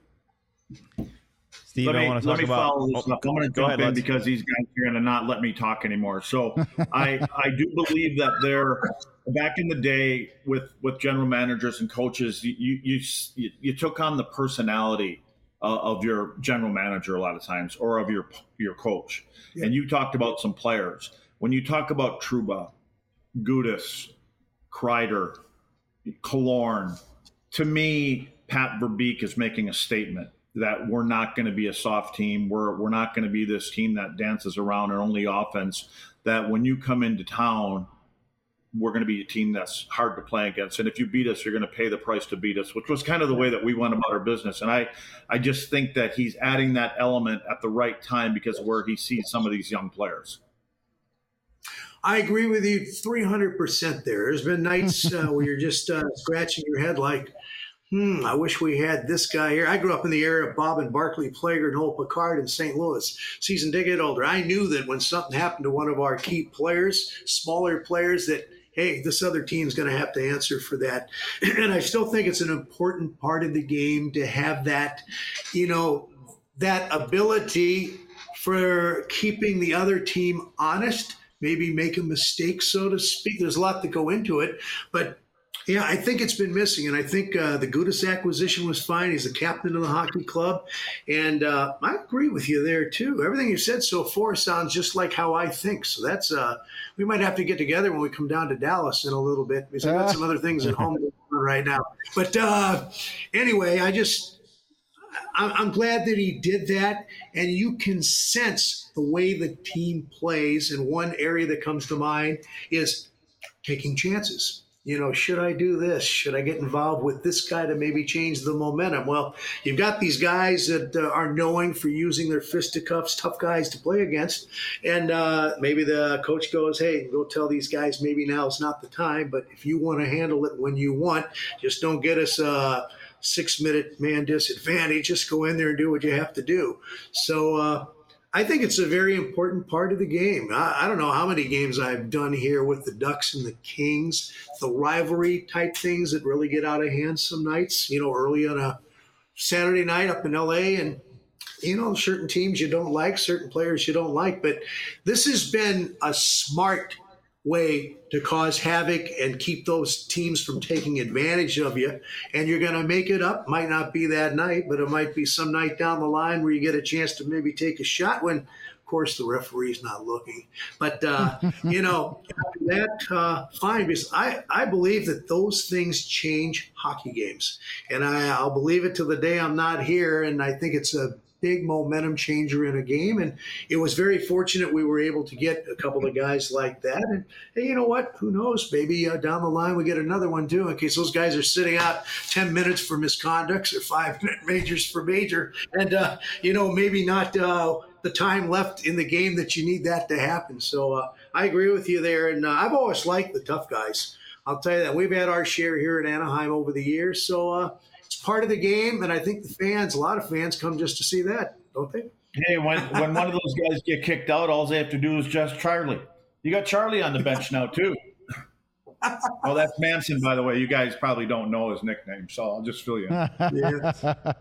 Steve, I want to talk about. Follow this up. I'm going to jump in because these guys are going to not let me talk anymore. So I do believe that they're back in the day with general managers and coaches. You took on the personality of your general manager a lot of times, or of your coach, and you talked about some players. When you talk about Trouba, Gudas, Kreider, Killorn, to me, Pat Verbeek is making a statement that we're not going to be a soft team. We're not going to be this team that dances around and only offense. That when you come into town, we're going to be a team that's hard to play against. And if you beat us, you're going to pay the price to beat us, which was kind of the way that we went about our business. And I just think that he's adding that element at the right time because of where he sees some of these young players. I agree with you 300% there. There's been nights where you're just scratching your head like, I wish we had this guy here. I grew up in the era of Bob and Barclay Plager, Noel Picard in St. Louis, season ticket holder. I knew that when something happened to one of our key players, smaller players, that, hey, this other team's going to have to answer for that. And I still think it's an important part of the game to have that, you know, that ability for keeping the other team honest, maybe make a mistake, so to speak. There's a lot to go into it, but yeah, I think it's been missing, and I think the Gudas acquisition was fine. He's the captain of the hockey club, and I agree with you there, too. Everything you said so far sounds just like how I think, so that's we might have to get together when we come down to Dallas in a little bit, because I've got some other things at home right now. But anyway, I'm glad that he did that, and you can sense the way the team plays, and one area that comes to mind is taking chances. You know, should I do this? Should I get involved with this guy to maybe change the momentum? Well, you've got these guys that are known for using their fisticuffs, tough guys to play against. And maybe the coach goes, hey, go tell these guys maybe now is not the time. But if you want to handle it when you want, just don't get us a 6-minute man disadvantage. Just go in there and do what you have to do. So I think it's a very important part of the game. I don't know how many games I've done here with the Ducks and the Kings, the rivalry type things that really get out of hand some nights, you know, early on a Saturday night up in LA, and, you know, certain teams you don't like, certain players you don't like. But this has been a smart way to cause havoc and keep those teams from taking advantage of you. And you're going to make it up. Might not be that night, but it might be some night down the line where you get a chance to maybe take a shot when, of course, the referee's not looking. But, you know, after that, fine, because I believe that those things change hockey games. And I'll believe it till the day I'm not here. And I think it's a big momentum changer in a game. And it was very fortunate we were able to get a couple of guys like that. And hey, you know what? Who knows? Maybe down the line we get another one too, in case those guys are sitting out 10 minutes for misconducts or 5-minute majors for major. And, you know, maybe not the time left in the game that you need that to happen. So I agree with you there. And I've always liked the tough guys. I'll tell you that. We've had our share here at Anaheim over the years. So, it's part of the game, and I think the fans, a lot of fans, come just to see that, don't they? Hey, when one of those guys get kicked out, all they have to do is just Charlie. You got Charlie on the bench now, too. Oh, that's Manson, by the way. You guys probably don't know his nickname, so I'll just fill you in. Yeah.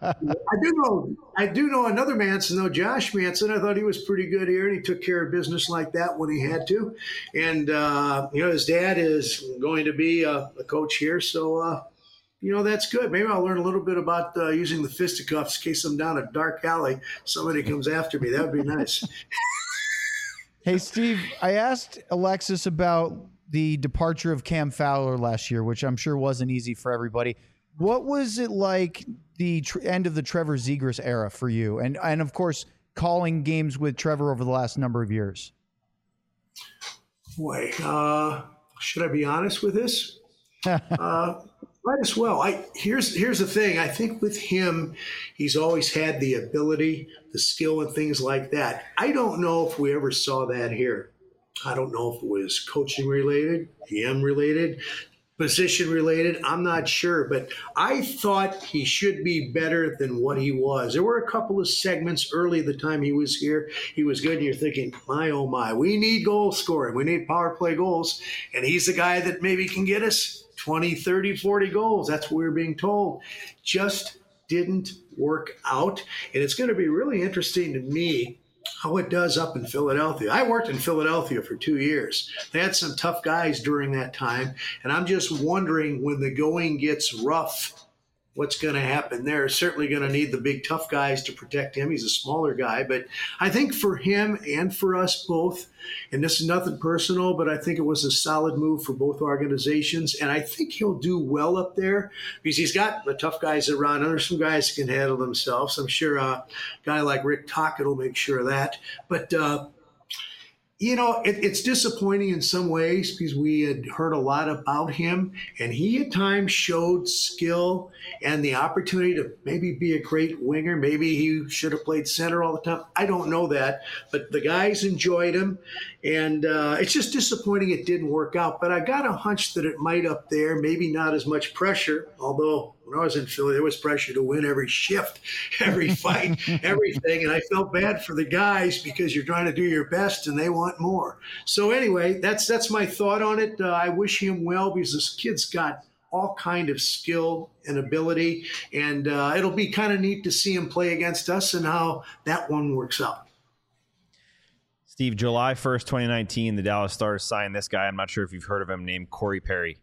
I do know another Manson though, Josh Manson. I thought he was pretty good here, and he took care of business like that when he had to. And his dad is going to be a coach here, so that's good. Maybe I'll learn a little bit about using the fisticuffs in case I'm down a dark alley. Somebody comes after me. That would be nice. Hey, Steve, I asked Alexis about the departure of Cam Fowler last year, which I'm sure wasn't easy for everybody. What was it like the end of the Trevor Zegras era for you? And of course, calling games with Trevor over the last number of years. Boy, should I be honest with this? Might as well. Here's the thing. I think with him, he's always had the ability, the skill, and things like that. I don't know if we ever saw that here. I don't know if it was coaching related, GM related, position related. I'm not sure, but I thought he should be better than what he was. There were a couple of segments early the time he was here. He was good, and you're thinking, my, oh my, we need goal scoring. We need power play goals, and he's the guy that maybe can get us 20, 30, 40 goals. That's what we were being told. Just didn't work out, and it's going to be really interesting to me how it does up in Philadelphia. I worked in Philadelphia for 2 years. They had some tough guys during that time, and I'm just wondering when the going gets rough, what's going to happen there. Certainly going to need the big tough guys to protect him. He's a smaller guy, but I think for him and for us both, and this is nothing personal, but I think it was a solid move for both organizations, and I think he'll do well up there because he's got the tough guys around. There's some guys who can handle themselves. I'm sure a guy like Rick Tocchet will make sure of that. But it's disappointing in some ways because we had heard a lot about him, and he at times showed skill and the opportunity to maybe be a great winger. Maybe he should have played center all the time. I don't know that, but the guys enjoyed him, and it's just disappointing it didn't work out. But I got a hunch that it might up there, maybe not as much pressure, although when I was in Philly, there was pressure to win every shift, every fight, everything. And I felt bad for the guys because you're trying to do your best and they want more. So anyway, that's my thought on it. I wish him well because this kid's got all kind of skill and ability. And it'll be kind of neat to see him play against us and how that one works out. Steve, July 1st, 2019, the Dallas Stars signed this guy. I'm not sure if you've heard of him, named Corey Perry.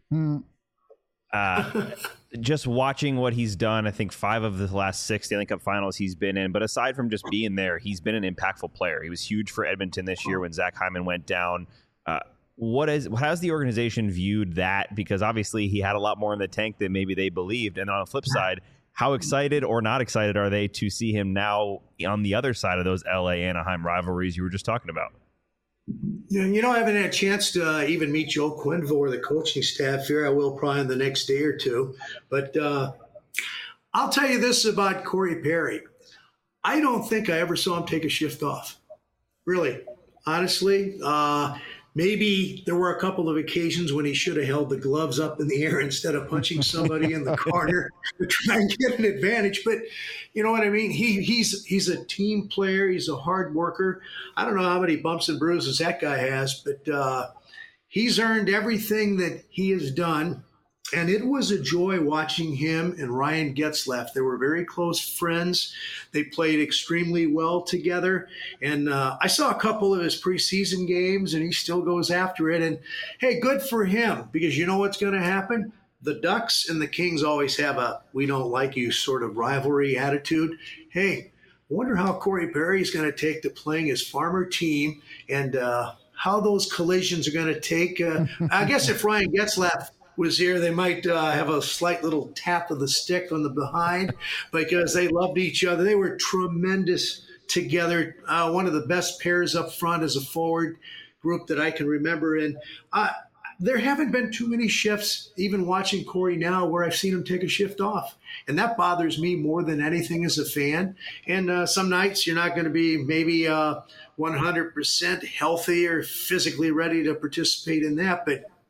Just watching what he's done, I think 5 of the last 6 Stanley Cup finals he's been in. But aside from just being there, he's been an impactful player. He was huge for Edmonton this year when Zach Hyman went down. How has the organization viewed that? Because obviously he had a lot more in the tank than maybe they believed. And on the flip side, how excited or not excited are they to see him now on the other side of those LA-Anaheim rivalries you were just talking about? I haven't had a chance to even meet Joe Quenneville or the coaching staff here. I will probably in the next day or two. But I'll tell you this about Corey Perry. I don't think I ever saw him take a shift off. Really, honestly. Maybe there were a couple of occasions when he should have held the gloves up in the air instead of punching somebody in the corner to try and get an advantage. But you know what I mean? He's a team player. He's a hard worker. I don't know how many bumps and bruises that guy has, but he's earned everything that he has done. And it was a joy watching him and Ryan Getzlaf. They were very close friends. They played extremely well together. And I saw a couple of his preseason games, and he still goes after it. And, hey, good for him, because you know what's going to happen? The Ducks and the Kings always have a we don't like you sort of rivalry attitude. Hey, I wonder how Corey Perry is going to take to playing his farmer team and how those collisions are going to take. I guess if Ryan Getzlaf was here, they might have a slight little tap of the stick on the behind because they loved each other. They were tremendous together. One of the best pairs up front as a forward group that I can remember. And there haven't been too many shifts, even watching Corey now, where I've seen him take a shift off. And that bothers me more than anything as a fan. And some nights you're not going to be maybe 100% healthy or physically ready to participate in that. But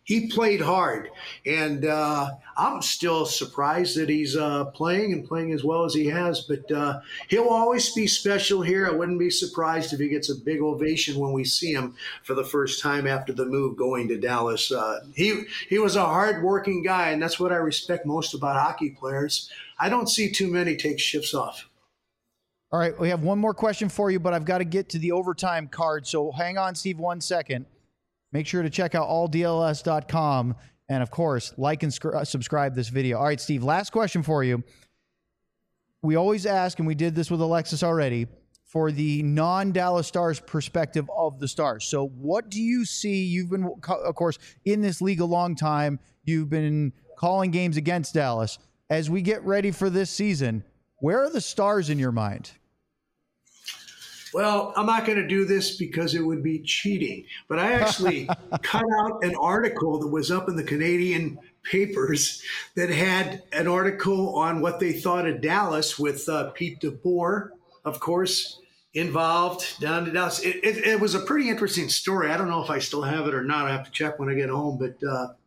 he played hard, and I'm still surprised that he's playing as well as he has. But he'll always be special here. I wouldn't be surprised if he gets a big ovation when we see him for the first time after the move going to Dallas. He was a hard-working guy, and that's what I respect most about hockey players. I don't see too many take shifts off. All right, we have one more question for you, but I've got to get to the overtime card. So hang on, Steve, 1 second. Make sure to check out alldls.com. And, of course, like and subscribe this video. All right, Steve, last question for you. We always ask, and we did this with Alexis already, for the non-Dallas Stars perspective of the Stars. So what do you see? You've been, of course, in this league a long time. You've been calling games against Dallas. As we get ready for this season, where are the Stars in your mind? Well, I'm not going to do this because it would be cheating, but I actually cut out an article that was up in the Canadian papers that had an article on what they thought of Dallas with Pete DeBoer, of course, involved down to Dallas. It was a pretty interesting story. I don't know if I still have it or not. I have to check when I get home. But,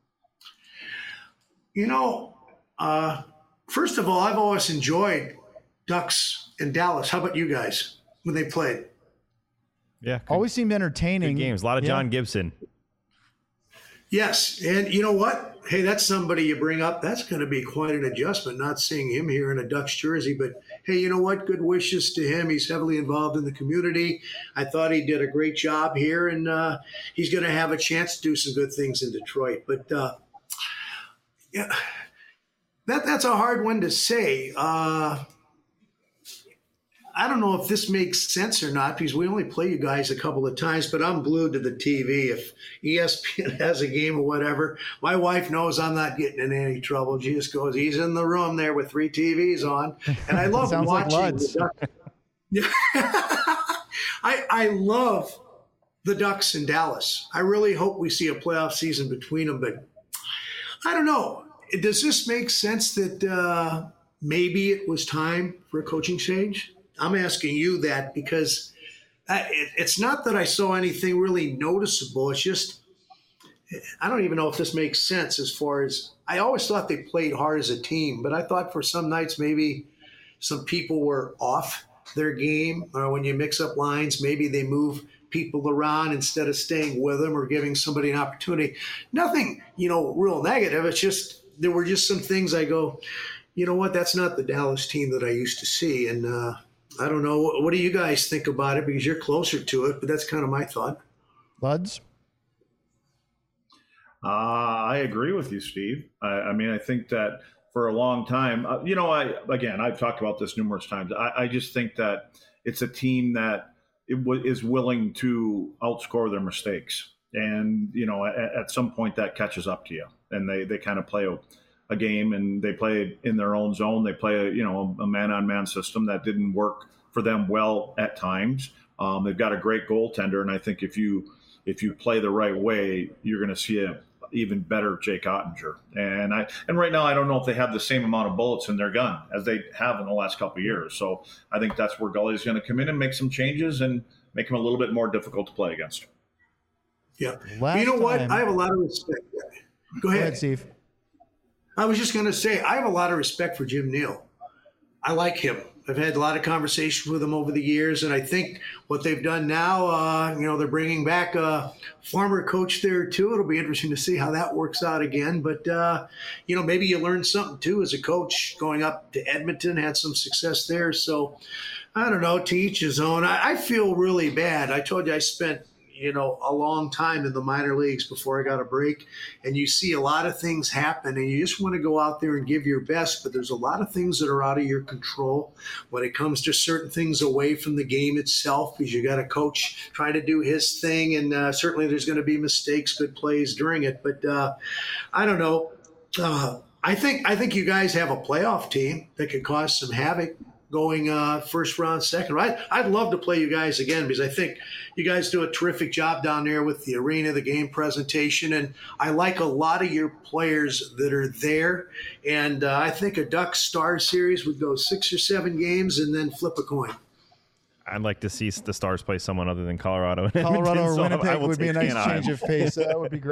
first of all, I've always enjoyed Ducks and Dallas. How about you guys? When they played. Yeah. Always seemed entertaining. Good games. A lot of John Gibson. Yes. And you know what? Hey, that's somebody you bring up. That's going to be quite an adjustment, not seeing him here in a Ducks jersey. But hey, you know what? Good wishes to him. He's heavily involved in the community. I thought he did a great job here, and he's going to have a chance to do some good things in Detroit. But yeah, that's a hard one to say. I don't know if this makes sense or not because we only play you guys a couple of times, but I'm glued to the TV. If ESPN has a game or whatever, my wife knows I'm not getting in any trouble. She just goes, he's in the room there with 3 TVs on. And I love watching the Ducks. I love the Ducks in Dallas. I really hope we see a playoff season between them, but I don't know. Does this make sense that maybe it was time for a coaching change? I'm asking you that because it's not that I saw anything really noticeable. It's just, I don't even know if this makes sense as far as, I always thought they played hard as a team, but I thought for some nights maybe some people were off their game, or when you mix up lines, maybe they move people around instead of staying with them or giving somebody an opportunity. Nothing, real negative. It's just, there were just some things I go, you know what, that's not the Dallas team that I used to see. And, I don't know. What do you guys think about it? Because you're closer to it, but that's kind of my thought. Luds? I agree with you, Steve. I mean, I think that for a long time, I've talked about this numerous times. I just think that it's a team that is willing to outscore their mistakes. And, at some point that catches up to you and they kind of play a game and they play in their own zone. They play a man-on-man system that didn't work for them well at times. They've got a great goaltender, and I think if you play the right way, you're going to see an even better Jake Ottinger. And right now, I don't know if they have the same amount of bullets in their gun as they have in the last couple of years. So I think that's where Gully's going to come in and make some changes and make him a little bit more difficult to play against. Yeah. You know what? I have a lot of respect. Go ahead, Steve. I was just going to say, I have a lot of respect for Jim Neal. I like him. I've had a lot of conversations with him over the years, and I think what they've done now, they're bringing back a former coach there too. It'll be interesting to see how that works out again. But, maybe you learn something too as a coach going up to Edmonton, had some success there. So I don't know, to each his own. I feel really bad. I told you I spent a long time in the minor leagues before I got a break. And you see a lot of things happen and you just want to go out there and give your best. But there's a lot of things that are out of your control when it comes to certain things away from the game itself, because you got a coach trying to do his thing. And certainly there's going to be mistakes, good plays during it. But I don't know. I think you guys have a playoff team that could cause some havoc going first round, second round. I'd love to play you guys again because I think you guys do a terrific job down there with the arena, the game presentation, and I like a lot of your players that are there. And I think a Ducks Star series would go 6 or 7 games and then flip a coin. I'd like to see the Stars play someone other than Colorado. Colorado or Winnipeg would be a nice change of pace. That would be great.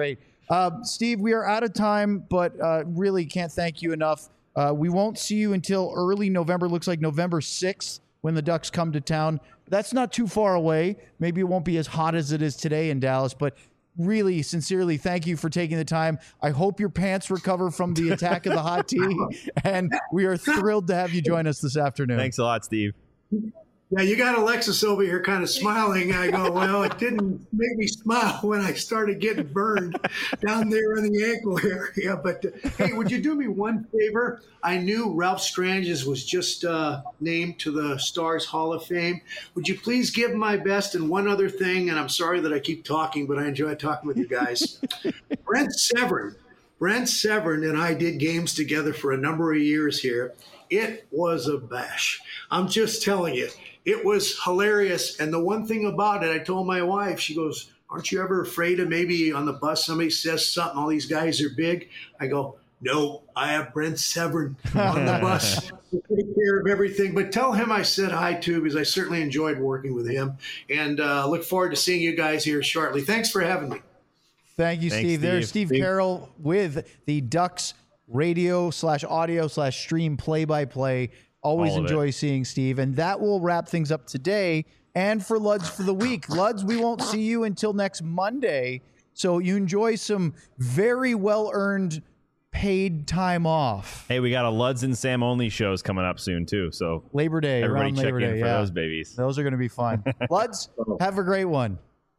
Steve, we are out of time, but really can't thank you enough. We won't see you until early November. Looks like November 6th when the Ducks come to town. That's not too far away. Maybe it won't be as hot as it is today in Dallas, but really, sincerely, thank you for taking the time. I hope your pants recover from the attack of the hot tea, and we are thrilled to have you join us this afternoon. Thanks a lot, Steve. Yeah, you got Alexis over here kind of smiling. I go, well, it didn't make me smile when I started getting burned down there in the ankle area. But hey, would you do me one favor? I knew Ralph Stranges was just named to the Stars Hall of Fame. Would you please give my best? And one other thing, and I'm sorry that I keep talking, but I enjoy talking with you guys. Brent Severin and I did games together for a number of years here. It was a bash. I'm just telling you. It was hilarious. And the one thing about it, I told my wife, she goes, aren't you ever afraid of maybe on the bus somebody says something, all these guys are big? I go, no, I have Brent Severin on the bus to take care of everything. But tell him I said hi too, because I certainly enjoyed working with him. And look forward to seeing you guys here shortly. Thanks for having me. Thank you, Steve. There's Steve Carroll with the Ducks radio/audio/stream play-by-play. Always enjoy seeing Steve. And that will wrap things up today and for Luds for the week. Luds, we won't see you until next Monday. So you enjoy some very well-earned paid time off. Hey, we got a Luds and Sam only shows coming up soon, too. So Labor Day. Everybody around check Labor in Day, for those babies. Those are going to be fun. Luds, have a great one.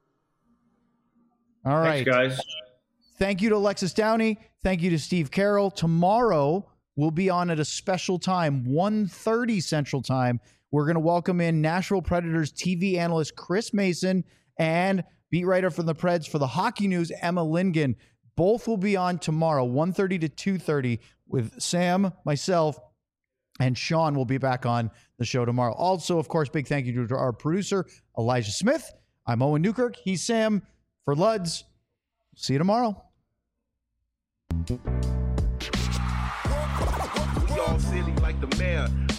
All right. Thanks, guys. Thank you to Alexis Downey. Thank you to Steve Carroll. Tomorrow, we'll be on at a special time, 1:30 Central Time. We're going to welcome in Nashville Predators TV analyst Chris Mason and beat writer from the Preds for the Hockey News, Emma Lingen. Both will be on tomorrow, 1:30 to 2:30, with Sam, myself, and Sean will be back on the show tomorrow. Also, of course, big thank you to our producer, Elijah Smith. I'm Owen Newkirk. He's Sam. For Luds, see you tomorrow. We all silly like the mayor.